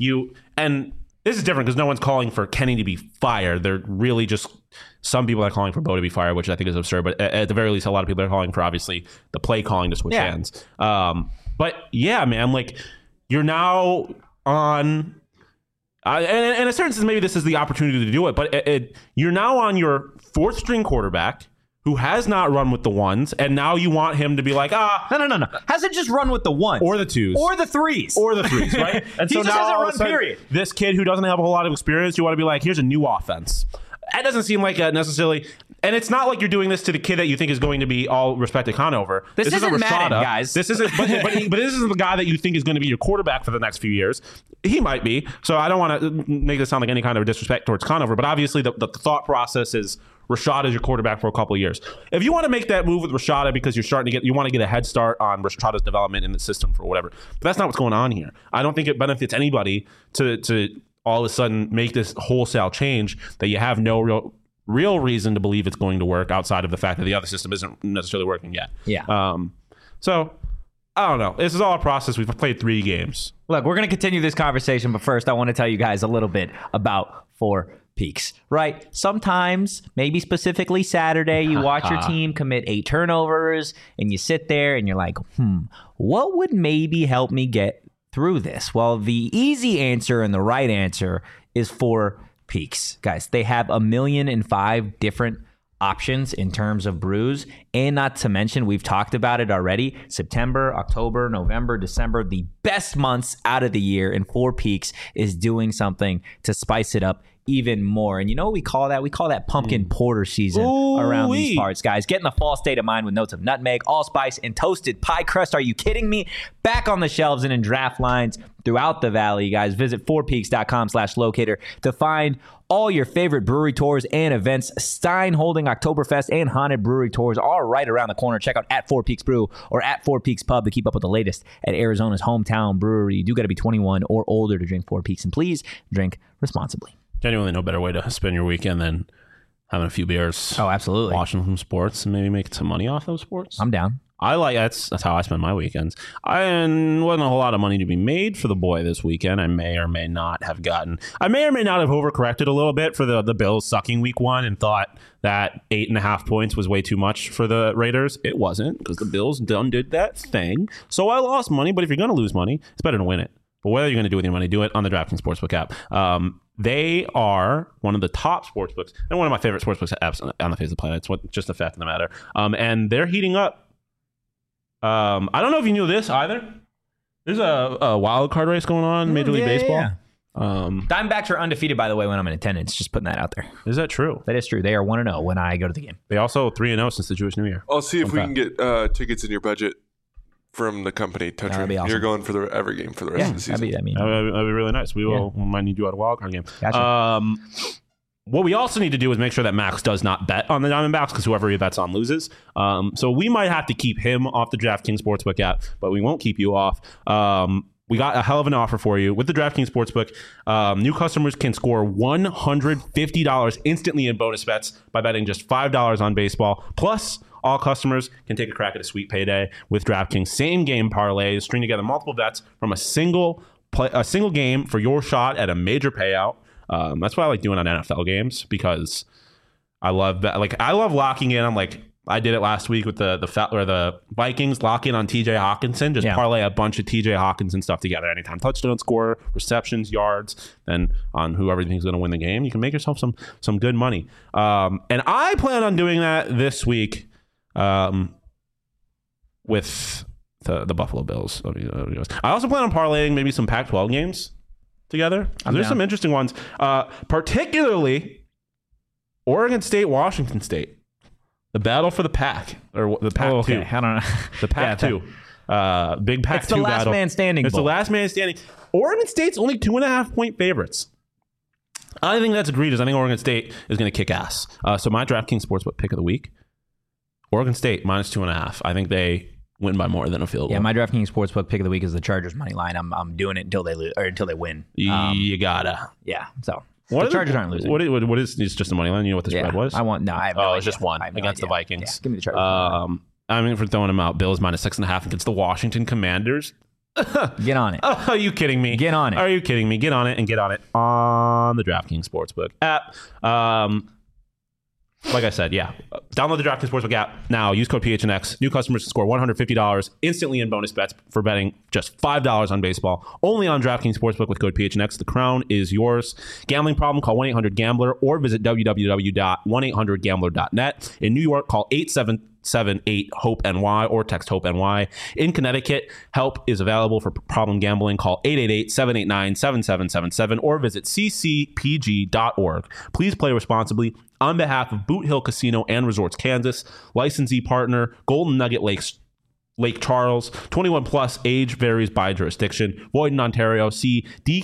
and this is different because no one's calling for Kenny to be fired. They're really just some people are calling for Bo to be fired, which I think is absurd. But at the very least, a lot of people are calling for, obviously, the play calling to switch hands. But yeah, man, like you're now on, and in a certain sense, maybe this is the opportunity to do it. But you're now on your fourth string quarterback who has not run with the ones, and now you want him to be like, No. Hasn't just run with the ones. Or the twos. Or the threes. Right? And he so just now hasn't run, period. This kid who doesn't have a whole lot of experience, you want to be like, here's a new offense. That doesn't seem like necessarily... And it's not like you're doing this to the kid that you think is going to be all respected Conover. This isn't Madden, guys. This isn't, but this isn't the guy that you think is going to be your quarterback for the next few years. He might be. So I don't want to make this sound like any kind of disrespect towards Conover, but obviously the thought process is Rashad is your quarterback for a couple of years. If you want to make that move with Rashada because you want to get a head start on Rashada's development in the system for whatever, but that's not what's going on here. I don't think it benefits anybody to all of a sudden make this wholesale change that you have no real reason to believe it's going to work outside of the fact that the other system isn't necessarily working yet. Yeah. So I don't know. This is all a process. We've played 3 games. Look, we're going to continue this conversation, but first I want to tell you guys a little bit about 4 Peaks, right? Sometimes, maybe specifically Saturday, you watch your team commit 8 turnovers and you sit there and you're like, what would maybe help me get through this? Well, the easy answer and the right answer is 4 Peaks. Guys, they have 1,000,005 different options in terms of brews, and not to mention, we've talked about it already, September, October, November, December, the best months out of the year, and 4 Peaks is doing something to spice it up even more. And you know what we call that? We call that pumpkin porter season around these parts, guys. Get in the fall state of mind with notes of nutmeg, allspice, and toasted pie crust. Are you kidding me? Back on the shelves and in draft lines throughout the valley, guys. Visit 4peaks.com/locator to find all your favorite brewery tours and events. Stein holding Oktoberfest and Haunted Brewery tours are right around the corner. Check out at 4 Peaks Brew or at 4 Peaks Pub to keep up with the latest at Arizona's hometown brewery. You do got to be 21 or older to drink 4 Peaks, and please drink responsibly. Genuinely no better way to spend your weekend than having a few beers. Oh, absolutely. Watching some sports and maybe making some money off those sports. I'm down. That's how I spend my weekends. And wasn't a whole lot of money to be made for the boy this weekend. I may or may not have overcorrected a little bit for the Bills sucking week 1 and thought that 8.5 points was way too much for the Raiders. It wasn't, because the Bills did that thing. So I lost money, but if you're going to lose money, it's better to win it. But whatever you're going to do with your money, do it on the DraftKings Sportsbook app. They are one of the top sportsbooks and one of my favorite sportsbooks apps on the face of the planet. It's just the fact of the matter. And they're heating up. I don't know if you knew this either. There's a wild card race going on in Major League Baseball. Yeah. Diamondbacks are undefeated, by the way, when I'm in attendance. Just putting that out there. Is that true? That is true. They are 1-0 when I go to the game. They also 3-0 since the Jewish New Year. I'll see if we can get tickets in your budget from the company. That'd be awesome. You're going for every game for the rest of the season. That'd be really nice. We might need you at a wild card game. Gotcha. What we also need to do is make sure that Max does not bet on the Diamondbacks, because whoever he bets on loses. So we might have to keep him off the DraftKings Sportsbook app, but we won't keep you off. We got a hell of an offer for you with the DraftKings Sportsbook. New customers can score $150 instantly in bonus bets by betting just $5 on baseball. Plus, all customers can take a crack at a sweet payday with DraftKings same game parlays, string together multiple bets from a single game for your shot at a major payout. That's what I like doing on NFL games, because I love locking in. I did it last week with the Vikings, lock in on TJ Hawkinson, parlay a bunch of TJ Hawkinson stuff together. Anytime touchdown score, receptions, yards, then on whoever you think is going to win the game, you can make yourself some good money. And I plan on doing that this week with the Buffalo Bills. I also plan on parlaying maybe some Pac-12 games together. There's some interesting ones, particularly Oregon State, Washington State. The battle for the Pac, or the Pac-2. I don't know. The Pac-2. Big Pac-2 battle. It's the last man standing. It's the last man standing. Oregon State's only 2.5-point favorites. I think that's egregious. I think Oregon State is going to kick ass. So my DraftKings Sportsbook pick of the week, Oregon State -2.5. I think they win by more than a field goal. Yeah, my DraftKings Sportsbook pick of the week is the Chargers money line. I'm doing it until they lose or until they win. You gotta. Yeah. So the Chargers aren't losing. What is it's just a money line? You know what the spread was? I have no it's just one against the Vikings. Yeah, give me the Chargers. I mean, for throwing them out, Bills minus 6.5 against the Washington Commanders. Get on it. Are you kidding me? Get on it. Are you kidding me? Get on it and get on it on the DraftKings Sportsbook app. Like I said, yeah. Download the DraftKings Sportsbook app now. Use code PHNX. New customers score $150 instantly in bonus bets for betting just $5 on baseball. Only on DraftKings Sportsbook with code PHNX. The crown is yours. Gambling problem? Call 1-800-GAMBLER or visit www.1800gambler.net. In New York, call 877-8-HOPE-NY or text HOPE-NY. In Connecticut, help is available for problem gambling. Call 888-789-7777 or visit ccpg.org. Please play responsibly. On behalf of Boot Hill Casino and Resorts, Kansas, licensee partner, Golden Nugget Lake Charles, 21 plus, age varies by jurisdiction, void in Ontario. See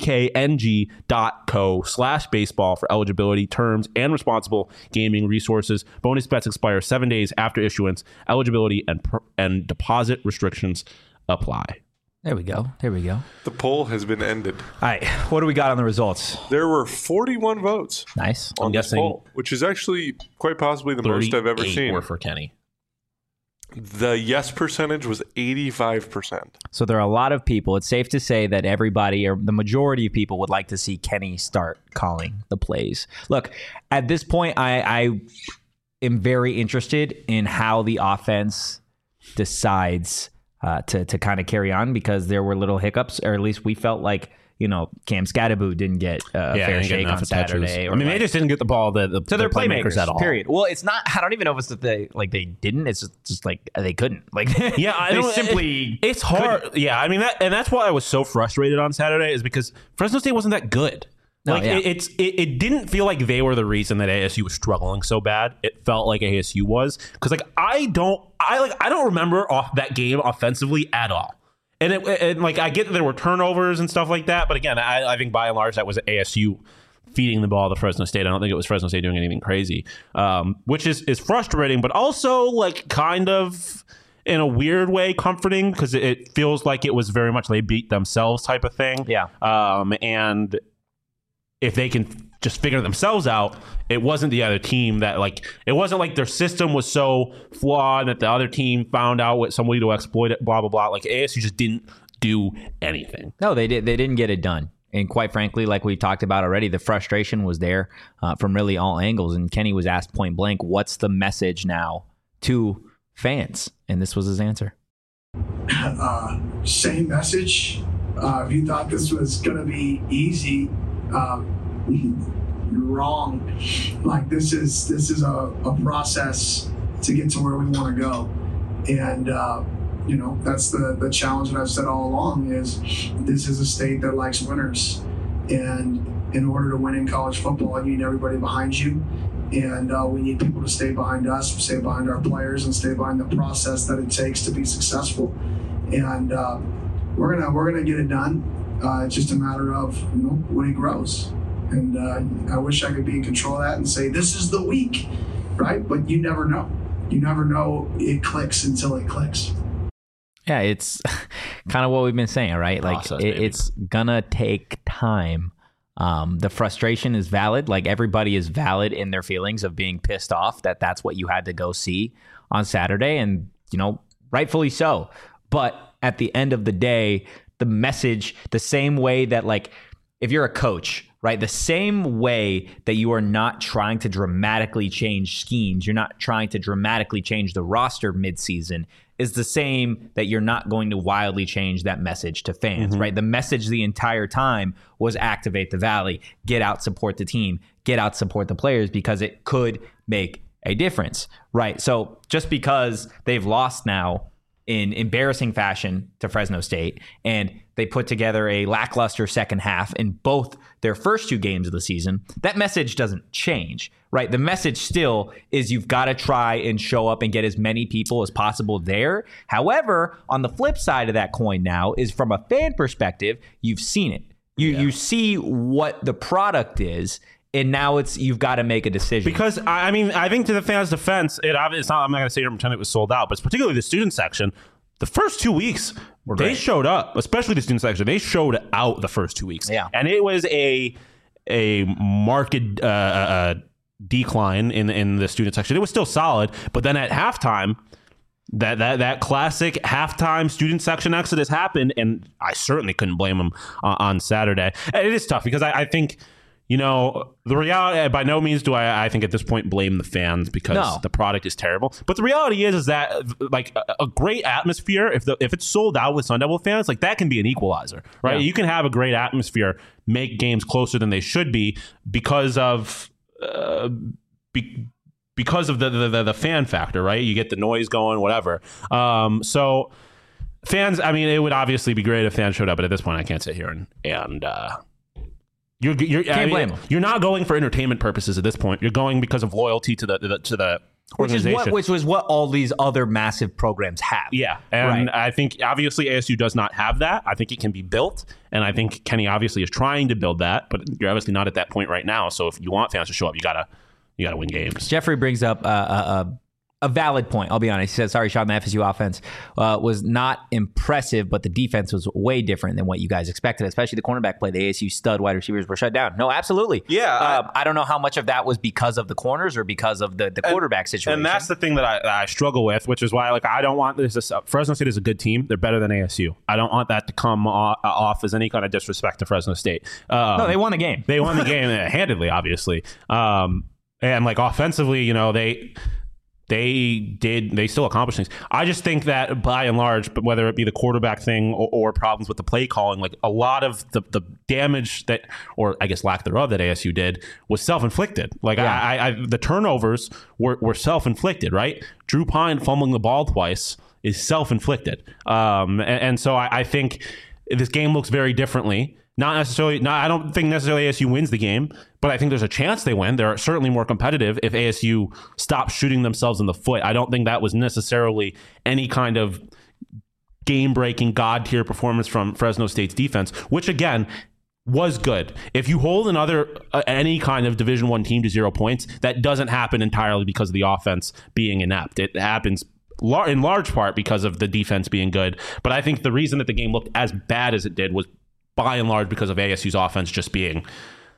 dkng.co/baseball for eligibility, terms, and responsible gaming resources. Bonus bets expire 7 days after issuance. Eligibility and deposit restrictions apply. There we go. The poll has been ended. All right. What do we got on the results? There were 41 votes. Nice. I'm guessing poll, which is actually quite possibly the most I've ever seen. Were for Kenny. The yes percentage was 85%. So there are a lot of people. It's safe to say that everybody, or the majority of people, would like to see Kenny start calling the plays. Look, at this point, I am very interested in how the offense decides to kind of carry on, because there were little hiccups, or at least we felt like, Cam Scatterbo didn't get a fair shake on Saturday. They just didn't get the ball to their playmakers at all. Period. Well, it's not. I don't even know if it's that they didn't. It's just like they couldn't. It's hard. Couldn't. Yeah, I mean that's why I was so frustrated on Saturday, is because Fresno State wasn't that good. It didn't feel like they were the reason that ASU was struggling so bad. It felt like ASU was, because I don't remember that game offensively at all. And I get that there were turnovers and stuff like that, but again, I think by and large that was ASU feeding the ball to Fresno State. I don't think it was Fresno State doing anything crazy, which is frustrating, but also kind of in a weird way comforting, because it feels like it was very much they beat themselves type of thing. Yeah. And if they can just figure themselves out, it wasn't the other team that it wasn't like their system was so flawed that the other team found out what somebody to exploit it, blah, blah, blah. ASU just didn't do anything. No, they didn't get it done. And quite frankly, like we talked about already, the frustration was there from really all angles. And Kenny was asked point blank, what's the message now to fans? And this was his answer. Same message. If you thought this was going to be easy, you're wrong. This is a process to get to where we want to go, and that's the challenge that I've said all along, is this is a state that likes winners, and in order to win in college football, you need everybody behind you, and we need people to stay behind us, stay behind our players, and stay behind the process that it takes to be successful, and we're gonna get it done. It's just a matter of when it grows. And I wish I could be in control of that and say, this is the week, right? But you never know. You never know it clicks until it clicks. Yeah, it's kind of what we've been saying, right? It's going to take time. The frustration is valid. Everybody is valid in their feelings of being pissed off that that's what you had to go see on Saturday. And, rightfully so. But at the end of the day, the message, the same way that if you're a coach, right, the same way that you are not trying to dramatically change schemes, you're not trying to dramatically change the roster midseason, is the same that you're not going to wildly change that message to fans, right? The message the entire time was activate the Valley, get out, support the team, get out, support the players, because it could make a difference, right? So just because they've lost now in embarrassing fashion to Fresno State, and they put together a lackluster second half in both their first two games of the season, that message doesn't change, right? The message still is you've got to try and show up and get as many people as possible there. However, on the flip side of that coin now is, from a fan perspective, you've seen it. You see what the product is, and now you've got to make a decision. Because, I think to the fans' defense, it's not, I'm not going to sit here and pretend it was sold out, but it's particularly the student section. The first 2 weeks, they showed up, especially the student section. They showed out the first 2 weeks. Yeah. And it was a marked decline in the student section. It was still solid, but then at halftime, that classic halftime student section exodus happened, and I certainly couldn't blame them on Saturday. And it is tough because I think, the reality, by no means do I think at this point blame the fans because the product is terrible. But the reality is that like a great atmosphere, if it's sold out with Sun Devil fans, like that can be an equalizer, right? Yeah. You can have a great atmosphere, make games closer than they should be because of because of the fan factor, right? You get the noise going, whatever. So fans, I mean, it would obviously be great if fans showed up, but at this point, I can't sit here and you're not going for entertainment purposes at this point. You're going because of loyalty to the organization, which was what all these other massive programs have. Yeah, and I think obviously ASU does not have that. I think it can be built, and I think Kenny obviously is trying to build that, but you're obviously not at that point right now. So if you want fans to show up, you gotta win games. Jeffrey brings up a valid point. I'll be honest. He said, sorry, Sean, the FSU offense was not impressive, but the defense was way different than what you guys expected, especially the cornerback play. The ASU stud wide receivers were shut down. No, absolutely. Yeah. I don't know how much of that was because of the corners or because of the quarterback situation. And that's the thing that I struggle with, which is why I don't want this. Fresno State is a good team. They're better than ASU. I don't want that to come off as any kind of disrespect to Fresno State. No, they won the game. They won the game handedly, obviously. And like offensively, they still accomplish things. I just think that by and large, but whether it be the quarterback thing or problems with the play calling, like a lot of the damage that, or I guess lack thereof, that ASU did was self-inflicted. Like the turnovers were self-inflicted, right? Drew Pine fumbling the ball twice is self-inflicted. And so I think this game looks very differently. I don't think necessarily ASU wins the game, but I think there's a chance they win. They're certainly more competitive if ASU stops shooting themselves in the foot. I don't think that was necessarily any kind of game-breaking, god-tier performance from Fresno State's defense, which, again, was good. If you hold any kind of Division I team to 0 points, that doesn't happen entirely because of the offense being inept. It happens in large part because of the defense being good. But I think the reason that the game looked as bad as it did was by and large because of ASU's offense just being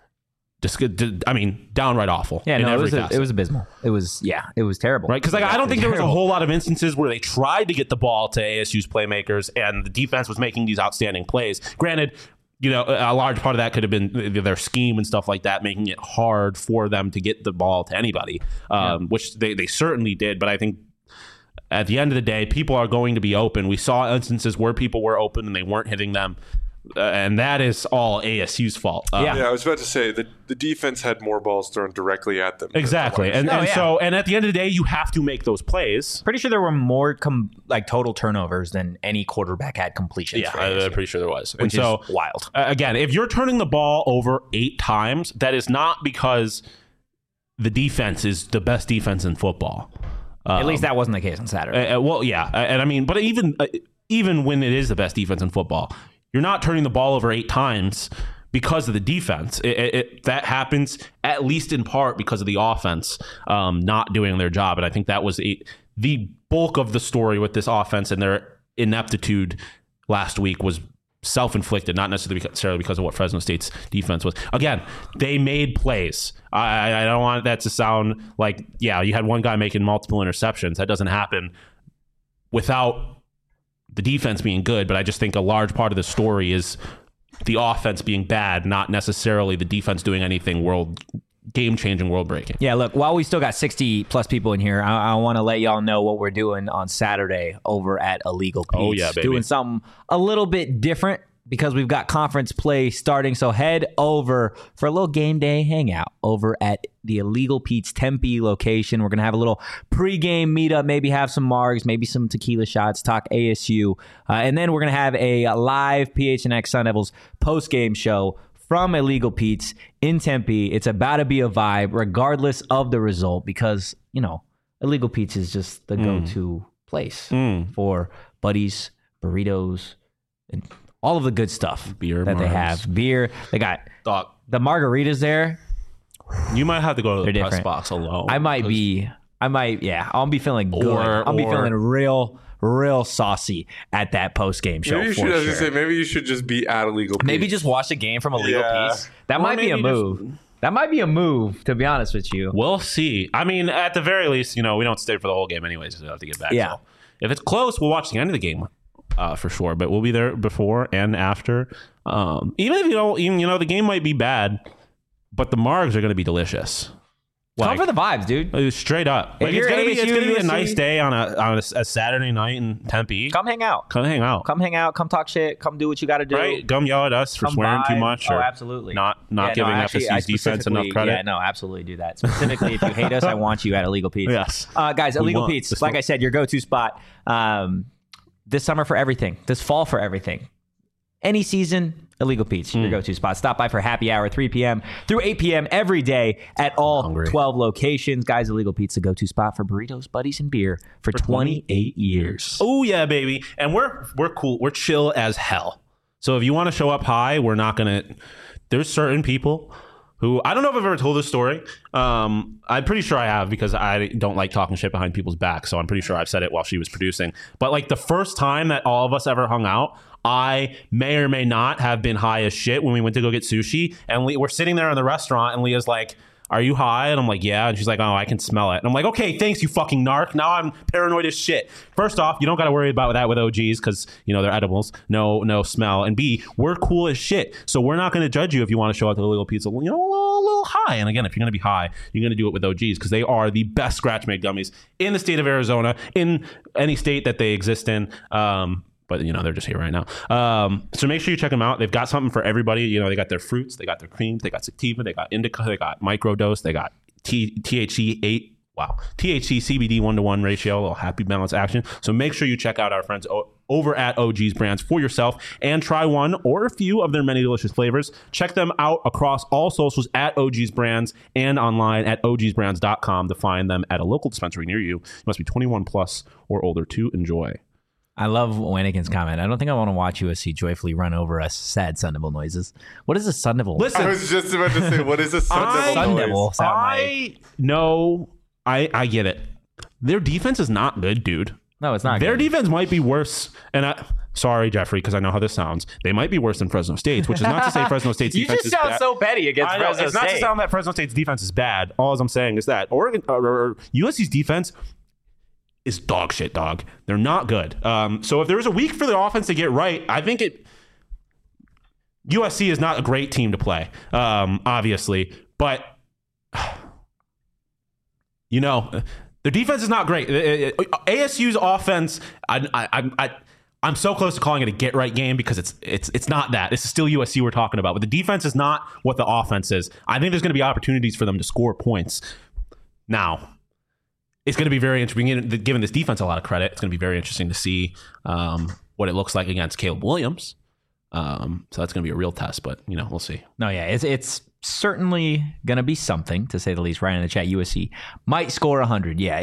downright awful. Yeah, no, it was abysmal. It was terrible. Right? Because I don't think there was a whole lot of instances where they tried to get the ball to ASU's playmakers and the defense was making these outstanding plays. Granted, a large part of that could have been their scheme and stuff like that, making it hard for them to get the ball to anybody, which they certainly did. But I think at the end of the day, people are going to be open. We saw instances where people were open and they weren't hitting them. And that is all ASU's fault. I was about to say the defense had more balls thrown directly at them. Exactly. And at the end of the day, you have to make those plays. Pretty sure there were more total turnovers than any quarterback had completions. Yeah, I'm pretty sure there was. Which is wild. Again, if you're turning the ball over 8 times, that is not because the defense is the best defense in football. At least that wasn't the case on Saturday. And I mean, but even when it is the best defense in football, you're not turning the ball over 8 times because of the defense. That happens at least in part because of the offense not doing their job. And I think that was the bulk of the story with this offense, and their ineptitude last week was self-inflicted, not necessarily because of what Fresno State's defense was. Again, they made plays. I don't want that to sound like, you had one guy making multiple interceptions. That doesn't happen without the defense being good, but I just think a large part of the story is the offense being bad, not necessarily the defense doing anything game-changing, world-breaking. Yeah, look, while we still got 60-plus people in here, I want to let y'all know what we're doing on Saturday over at Illegal Pete's. Oh, yeah, baby. Doing something a little bit different because we've got conference play starting. So head over for a little game day hangout over at the Illegal Pete's Tempe location. We're going to have a little pregame meetup, maybe have some margs, maybe some tequila shots, talk ASU. And then we're going to have a live PHNX Sun Devils postgame show from Illegal Pete's in Tempe. It's about to be a vibe regardless of the result because, Illegal Pete's is just the go-to place for buddies, burritos, and all of the good stuff that they have. Beer. They got the margaritas there. You might have to go to the press box alone. I'll be feeling good. I'll be feeling real saucy at that post-game show. Maybe you should just be at Illegal Pete's. Maybe just watch the game from Illegal Pete's. That might be a move. That might be a move, to be honest with you. We'll see. I mean, at the very least, we don't stay for the whole game anyways, so we have to get back. Yeah. If it's close, we'll watch the end of the game for sure. But we'll be there before and after. Even if the game might be bad, but the margs are going to be delicious. Come for the vibes, dude. Straight up. Like, it's gonna be a nice day on a Saturday night in Tempe. Come hang out. Come talk shit. Come do what you got to do. Right. Come yell at us for swearing too much. Or absolutely. Not giving FSU's defense enough credit. Yeah, no, absolutely do that. Specifically, if you hate us, I want you at Illegal Pete's. Yes. Guys, Illegal Pete's, like I said, your go-to spot this summer for everything. This fall for everything. Any season, Illegal Pete's, your go-to spot. Stop by for happy hour, 3 p.m. through 8 p.m. every day at all 12 locations. Guys, Illegal Pete's, the go-to spot for burritos, buddies, and beer for 28 years. Oh, yeah, baby. And we're cool. We're chill as hell. So if you want to show up high, we're not going to... There's certain people who... I don't know if I've ever told this story. I'm pretty sure I have because I don't like talking shit behind people's backs. So I'm pretty sure I've said it while she was producing. But like the first time that all of us ever hung out, I may or may not have been high as shit when we went to go get sushi. And we're sitting there in the restaurant and Leah's like, "Are you high?" And I'm like, "Yeah." And she's like, "Oh, I can smell it." And I'm like, "Okay, thanks, you fucking narc." Now I'm paranoid as shit. First off, you don't got to worry about that with OGs because, they're edibles. No smell. And B, we're cool as shit. So we're not going to judge you if you want to show up to Illegal Pizza, a little high. And again, if you're going to be high, you're going to do it with OGs because they are the best scratch-made gummies in the state of Arizona, in any state that they exist in. But, they're just here right now. So make sure you check them out. They've got something for everybody. They got their fruits. They got their creams. They got sativa. They got indica. They got microdose. They got THC 8. Wow. THC CBD 1-to-1 ratio. A little happy balance action. So make sure you check out our friends over at OG's Brands for yourself and try one or a few of their many delicious flavors. Check them out across all socials at OG's Brands and online at ogsbrands.com to find them at a local dispensary near you. You must be 21 plus or older to enjoy. I love Wanigan's comment. I don't think I want to watch USC joyfully run over us sad Sun Devil noises. What is a Sun Devil? Listen, I was just about to say, what is a Sun Devil noise? I get it. Their defense is not good, dude. No, it's not Their good. defense might be worse. And sorry, Jeffrey, because I know how this sounds. They might be worse than Fresno State's, which is not to say Fresno State's defense is bad. You just sound so petty against Fresno State. It's not to sound that Fresno State's defense is bad. All I'm saying is that Oregon or USC's defense is dog shit, dog. They're not good. So if there was a week for the offense to get right, I think USC is not a great team to play, obviously, but their defense is not great. ASU's offense, I'm so close to calling it a get right game because it's not that. This is still USC we're talking about, but the defense is not what the offense is. I think there's going to be opportunities for them to score points. Now, it's going to be very interesting. Giving this defense a lot of credit, it's going to be very interesting to see what it looks like against Caleb Williams. So that's going to be a real test, but we'll see. No, yeah, it's certainly going to be something, to say the least. Right in the chat, USC might score 100. Yeah,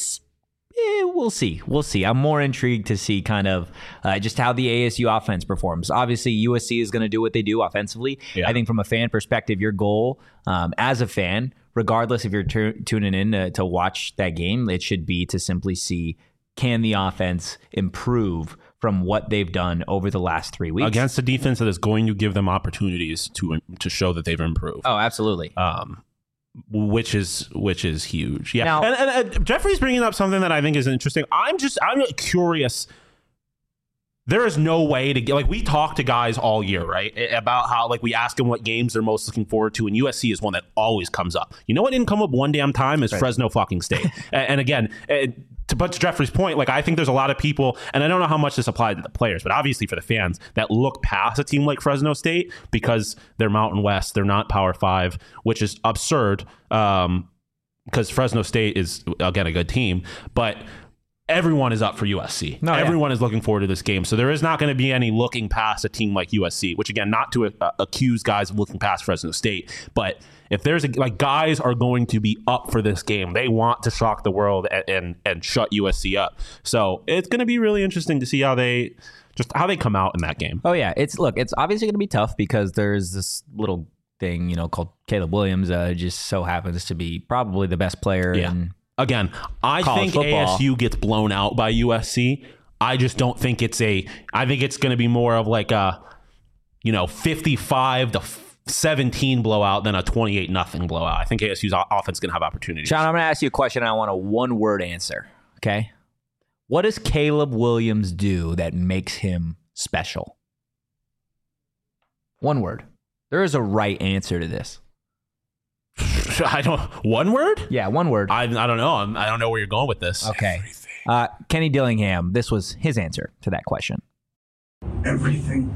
we'll see. We'll see. I'm more intrigued to see kind of just how the ASU offense performs. Obviously, USC is going to do what they do offensively. Yeah. I think from a fan perspective, your goal as a fan, regardless if you're tuning in to watch that game, it should be to simply see, can the offense improve from what they've done over the last 3 weeks against a defense that is going to give them opportunities to show that they've improved. Oh, absolutely. Which is huge. Yeah. Now, and Jeffrey's bringing up something that I think is interesting. I'm curious. There is no way to get, we talk to guys all year, right? About how, we ask them what games they're most looking forward to, and USC is one that always comes up. You know what didn't come up one damn time is right. Fresno fucking State. And again, to Jeffrey's point, I think there's a lot of people, and I don't know how much this applies to the players, but obviously for the fans, that look past a team like Fresno State because they're Mountain West, they're not Power 5, which is absurd because Fresno State is, again, a good team, but everyone is up for USC. Everyone is looking forward to this game. So there is not going to be any looking past a team like USC, which, again, not to accuse guys of looking past Fresno State, but if there's guys are going to be up for this game. They want to shock the world and shut USC up. So it's going to be really interesting to see how they come out in that game. Oh yeah, it's obviously going to be tough because there's this little thing called Caleb Williams. Just so happens to be probably the best player in. Again, I think football. ASU gets blown out by USC. I just don't think I think it's going to be more of a 55-17 blowout than a 28-0 blowout. I think ASU's offense is going to have opportunities. Sean, I'm going to ask you a question. And I want a one-word answer. Okay, What does Caleb Williams do that makes him special? One word. There is a right answer to this. One word? Yeah, one word. I don't know. I don't know where you're going with this. Okay. Kenny Dillingham, this was his answer to that question. Everything.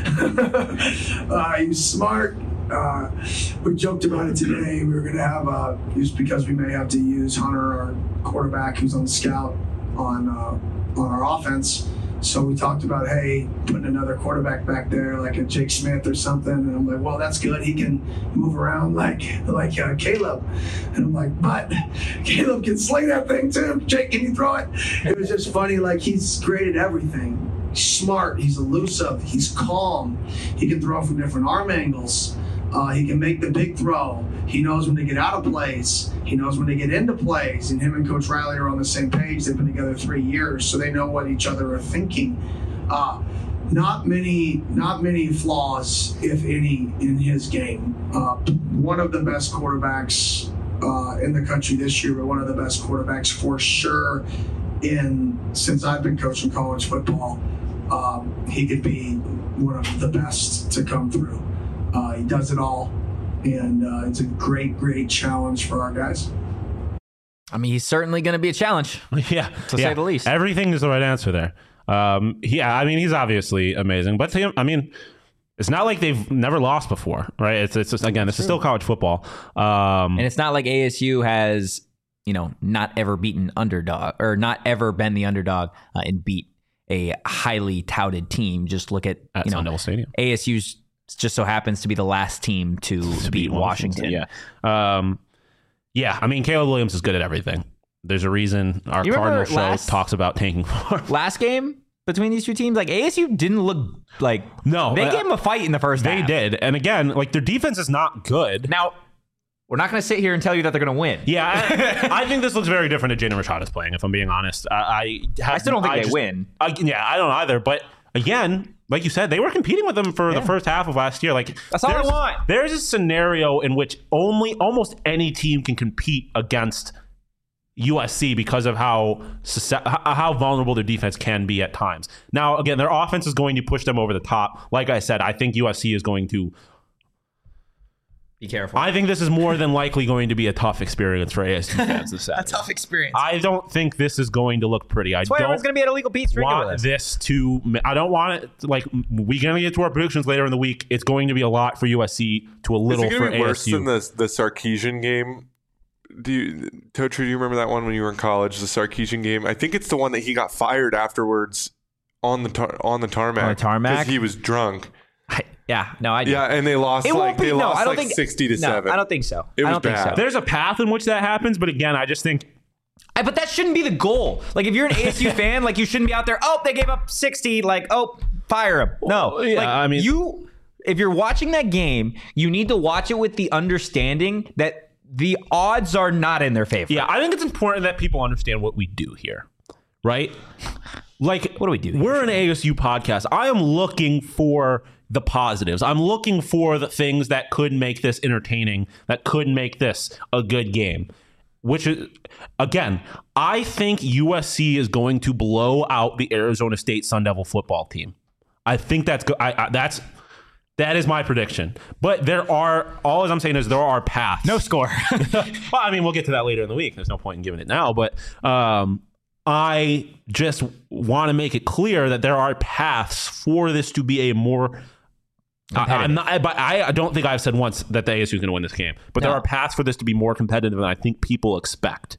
He's smart. We joked about it today. We were going to have, just because we may have to use Hunter, our quarterback, who's on the scout on our offense. So we talked about, hey, putting another quarterback back there, like a Jake Smith or something. And I'm like, well, that's good. He can move around like Caleb. And I'm like, but Caleb can sling that thing too. Jake, can you throw it? It was just funny. Like, he's great at everything. He's smart. He's elusive. He's calm. He can throw from different arm angles. He can make the big throw. He knows when to get out of plays. He knows when to get into plays. And him and Coach Riley are on the same page. They've been together 3 years, so they know what each other are thinking. Not many flaws, if any, in his game. One of the best quarterbacks in the country this year, but one of the best quarterbacks for sure since I've been coaching college football. He could be one of the best to come through. He does it all, and it's a great challenge for our guys. I mean, he's certainly going to be a challenge, to say the least. Everything is the right answer there. I mean, he's obviously amazing, but I mean, it's not like they've never lost before, right? It's just, again, this is still college football, and it's not like ASU has, not ever beaten underdog or not ever been the underdog and beat a highly touted team. Just look at Sun Devil Stadium. ASU's just so happens to be the last team to beat Washington. Yeah. I mean, Caleb Williams is good at everything. There's a reason our Cardinal show talks about tanking for. Last game between these two teams, like ASU didn't look like they gave them a fight in the first half. They did. And again, like their defense is not good. Now, we're not going to sit here and tell you that they're going to win. Yeah, I think this looks very different to Jaden Rashada's playing, if I'm being honest. I still don't think they win. I don't either. But again, like you said, they were competing with them for the first half of last year. Like that's all I want. There's a scenario in which almost any team can compete against USC because of how vulnerable their defense can be at times. Now, again, their offense is going to push them over the top. Like I said, I think USC is going to be careful. I think this is more than likely going to be a tough experience for ASU fans this Saturday. A tough experience. I don't think this is going to look pretty. That's why everyone's going to be at Illegal Pete's drinking with us. I don't want it. Like, we're going to get to our predictions later in the week. It's going to be a lot for USC to a little for ASU. Is it going to be worse than the Sarkisian game? Totri, do you remember that one when you were in college? The Sarkisian game. I think it's the one that he got fired afterwards on the tarmac. On the tarmac because he was drunk. I do. Yeah, and they lost 60 to 7. I don't think so. It was bad. Think so. There's a path in which that happens, but again, I just think. But that shouldn't be the goal. Like, if you're an ASU fan, like, you shouldn't be out there. Oh, they gave up 60. Like, oh, fire him. No, if you're watching that game, you need to watch it with the understanding that the odds are not in their favor. Yeah, I think it's important that people understand what we do here, right? Like, what do we do? We're an ASU podcast. I am looking for the positives. I'm looking for the things that could make this entertaining, that could make this a good game. Which is, again, I think USC is going to blow out the Arizona State Sun Devil football team. I think that is my prediction. But all I'm saying is there are paths. No score. Well, I mean, we'll get to that later in the week. There's no point in giving it now. But I just want to make it clear that there are paths for this to be a more. I don't think I've said once that the ASU is going to win this game, but there are paths for this to be more competitive than I think people expect.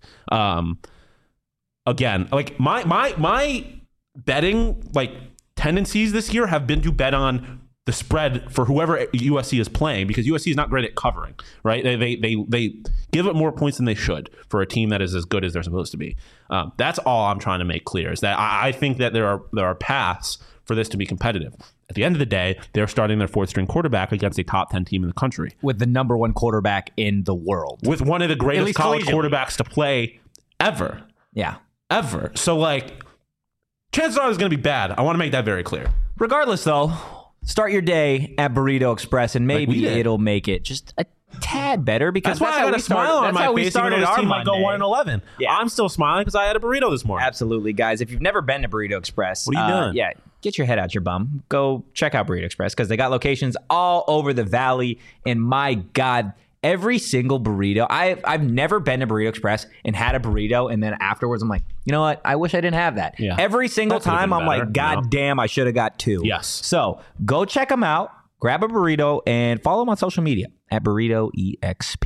Again, like my betting tendencies this year have been to bet on the spread for whoever USC is playing, because USC is not great at covering, right? They give it more points than they should for a team that is as good as they're supposed to be. That's all I'm trying to make clear, is that I think that there are paths for this to be competitive. At the end of the day, they're starting their fourth string quarterback against a top 10 team in the country. With the number one quarterback in the world. With one of the greatest college quarterbacks to play ever. Yeah. Ever. So, chances are it's going to be bad. I want to make that very clear. Regardless, though, start your day at Burrito Express, and maybe it'll make it just a tad better because That's why I got a smile on my face. Even though this team might go 1-11. Yeah. I'm still smiling because I had a burrito this morning. Absolutely, guys. If you've never been to Burrito Express, What are you doing? Yeah, get your head out your bum. Go check out Burrito Express because they got locations all over the valley. And my God, every single burrito. I've never been to Burrito Express and had a burrito, and then afterwards I'm like, you know what? I wish I didn't have that. Yeah. Every single That could've time been I'm better, like, God damn, I should have got 2. Yes. So go check them out. Grab a burrito and follow them on social media at Burrito EXP.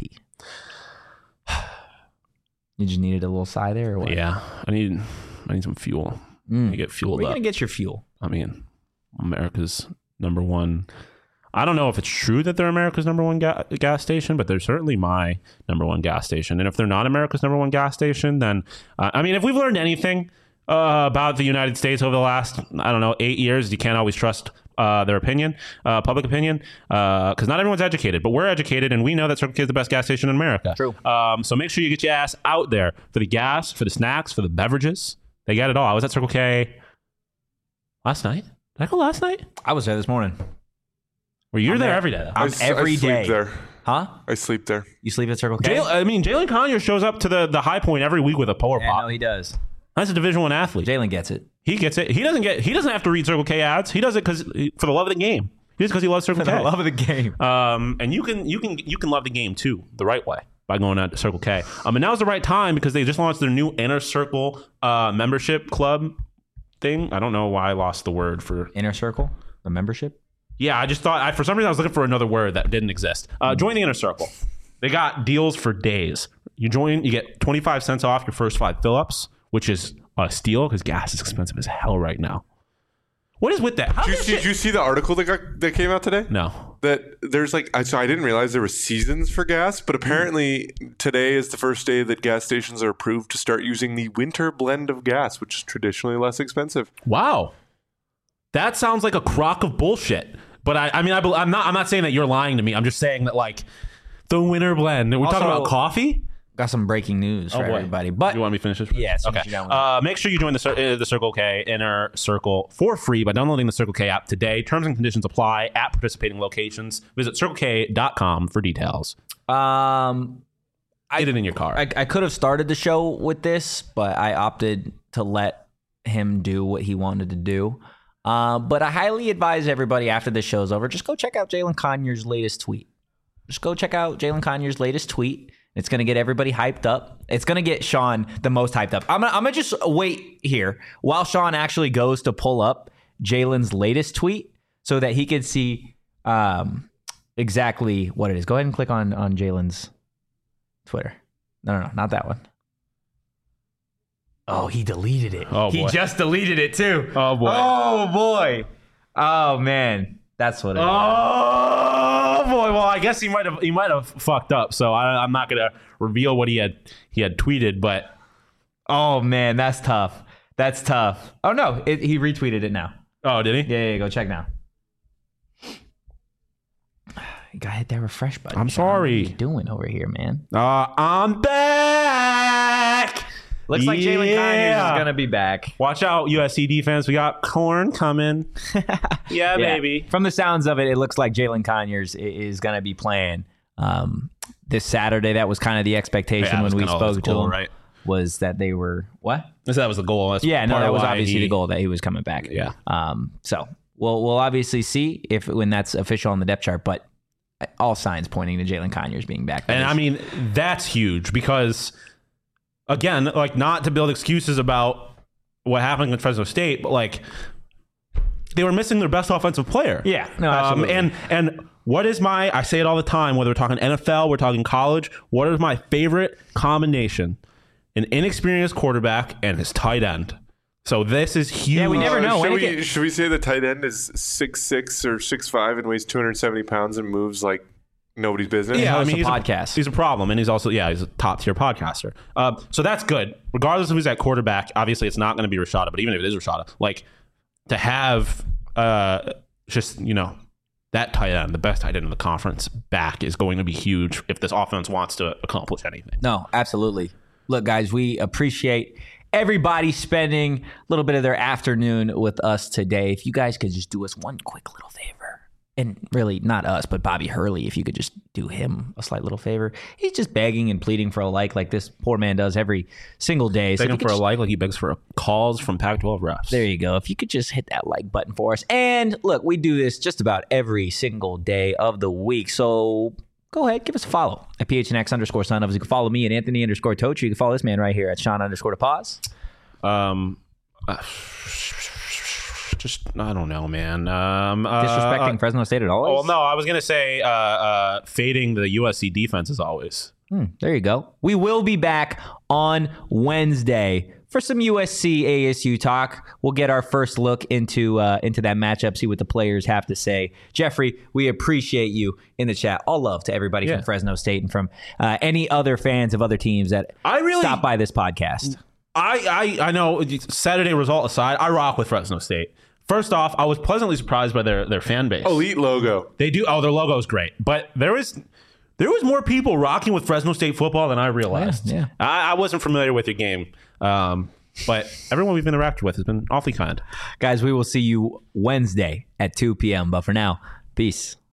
You just needed a little sigh there, or what? Yeah, I need some fuel. I get fueled Where are you up. gonna get your fuel? I mean, America's number one. I don't know if it's true that they're America's number one gas station, but they're certainly my number one gas station. And if they're not America's number one gas station, then I mean, if we've learned anything about the United States over the last, 8 years, you can't always trust their opinion, public opinion, because not everyone's educated, but we're educated, and we know that Circle K is the best gas station in America. True. So make sure you get your ass out there for the gas, for the snacks, for the beverages. They got it all. I was at Circle K last night. Did I go last night? I was there this morning. Well, you're there every day. I'm every I day. sleep there. Huh? I sleep there. You sleep at Circle K? Jalen Conyers shows up to the high point every week with a polar Yeah, pop. no, he does. That's a Division I athlete. Jalen gets it. He gets it. He doesn't have to read Circle K ads. He does it for the love of the game. He does it because he loves Circle K. For the love of the game. And you can love the game too the right way by going out to Circle K. And now's the right time because they just launched their new Inner Circle membership club thing. I don't know why I lost the word for Inner Circle? The membership? Yeah, I just thought for some reason I was looking for another word that didn't exist. Join the Inner Circle. They got deals for days. You join, you get 25 cents off your first 5 fill-ups, which is a steal because gas is expensive as hell right now. What is with that? Did you see the article that came out today? No. That there's so I didn't realize there were seasons for gas, but apparently today is the first day that gas stations are approved to start using the winter blend of gas, which is traditionally less expensive. Wow. That sounds like a crock of bullshit. But I'm not saying that you're lying to me. I'm just saying that like the winter blend. We're talking about coffee. Got some breaking news for everybody. But you want me to finish this? Yeah, okay. Make sure you join the Circle K Inner Circle for free by downloading the Circle K app today. Terms and conditions apply at participating locations. Visit CircleK.com for details. Get it in your car. I could have started the show with this, but I opted to let him do what he wanted to do. But I highly advise everybody after this show's over, just go check out Jalen Conyers' latest tweet. Just go check out Jalen Conyers' latest tweet. It's going to get everybody hyped up. It's going to get Sean the most hyped up. I'm going to just wait here while Sean actually goes to pull up Jalen's latest tweet so that he can see exactly what it is. Go ahead and click on Jalen's Twitter. No, not that one. Oh, he deleted it. Oh, boy. He just deleted it too. Oh, boy. Oh, boy. Oh, man. That's what it is. Oh boy! Well, I guess he might have fucked up. So I'm not gonna reveal what he had tweeted. But oh man, that's tough. That's tough. Oh no, he retweeted it now. Oh, did he? Yeah. Go check now. You gotta hit that refresh button. I'm sorry. What are you doing over here, man? I'm back. Looks like Jalen Conyers is gonna be back. Watch out, USC defense. We got corn coming. Yeah, baby. From the sounds of it, it looks like Jalen Conyers is gonna be playing this Saturday. That was kind of the expectation when we spoke to him. Right? Was that they were what? That was the goal. That's that was obviously the goal that he was coming back. Yeah. So we'll obviously see when that's official on the depth chart, but all signs pointing to Jalen Conyers being back. And I mean, that's huge because. Again, like not to build excuses about what happened with Fresno State, but like they were missing their best offensive player. Yeah, no, absolutely. And what is I say it all the time, whether we're talking NFL, we're talking college, what is my favorite combination? An inexperienced quarterback and his tight end. So this is huge. Yeah, we never know. Should we say the tight end is 6'6" or 6'5" and weighs 270 pounds and moves like nobody's business? Yeah, I mean, he's a podcast. He's a problem, and he's also he's a top tier podcaster. So that's good, regardless of who's at quarterback. Obviously, it's not going to be Rashada, but even if it is Rashada, like to have that tight end, the best tight end in the conference, back is going to be huge if this offense wants to accomplish anything. No, absolutely. Look, guys, we appreciate everybody spending a little bit of their afternoon with us today. If you guys could just do us one quick little favor. and really not us, but Bobby Hurley, if you could just do him a slight little favor. He's just begging and pleading for a like this poor man does every single day. Begging for a like he begs for calls from Pac-12 refs. There you go. If you could just hit that like button for us. And look, we do this just about every single day of the week. So go ahead, give us a follow at PHNX_son of us. You can follow me at Anthony_Totri. You can follow this man right here at Sean_DePaz. Just, I don't know, man. Disrespecting Fresno State at all? Oh, no, I was going to say fading the USC defense as always. There you go. We will be back on Wednesday for some USC ASU talk. We'll get our first look into that matchup, see what the players have to say. Jeffrey, we appreciate you in the chat. All love to everybody from Fresno State and from any other fans of other teams that stop by this podcast. I know, Saturday result aside, I rock with Fresno State. First off, I was pleasantly surprised by their fan base. Elite logo. They do. Oh, their logo is great. But there was more people rocking with Fresno State football than I realized. Yeah. I wasn't familiar with your game. But everyone we've interacted with has been awfully kind. Guys, we will see you Wednesday at 2 p.m. But for now, peace.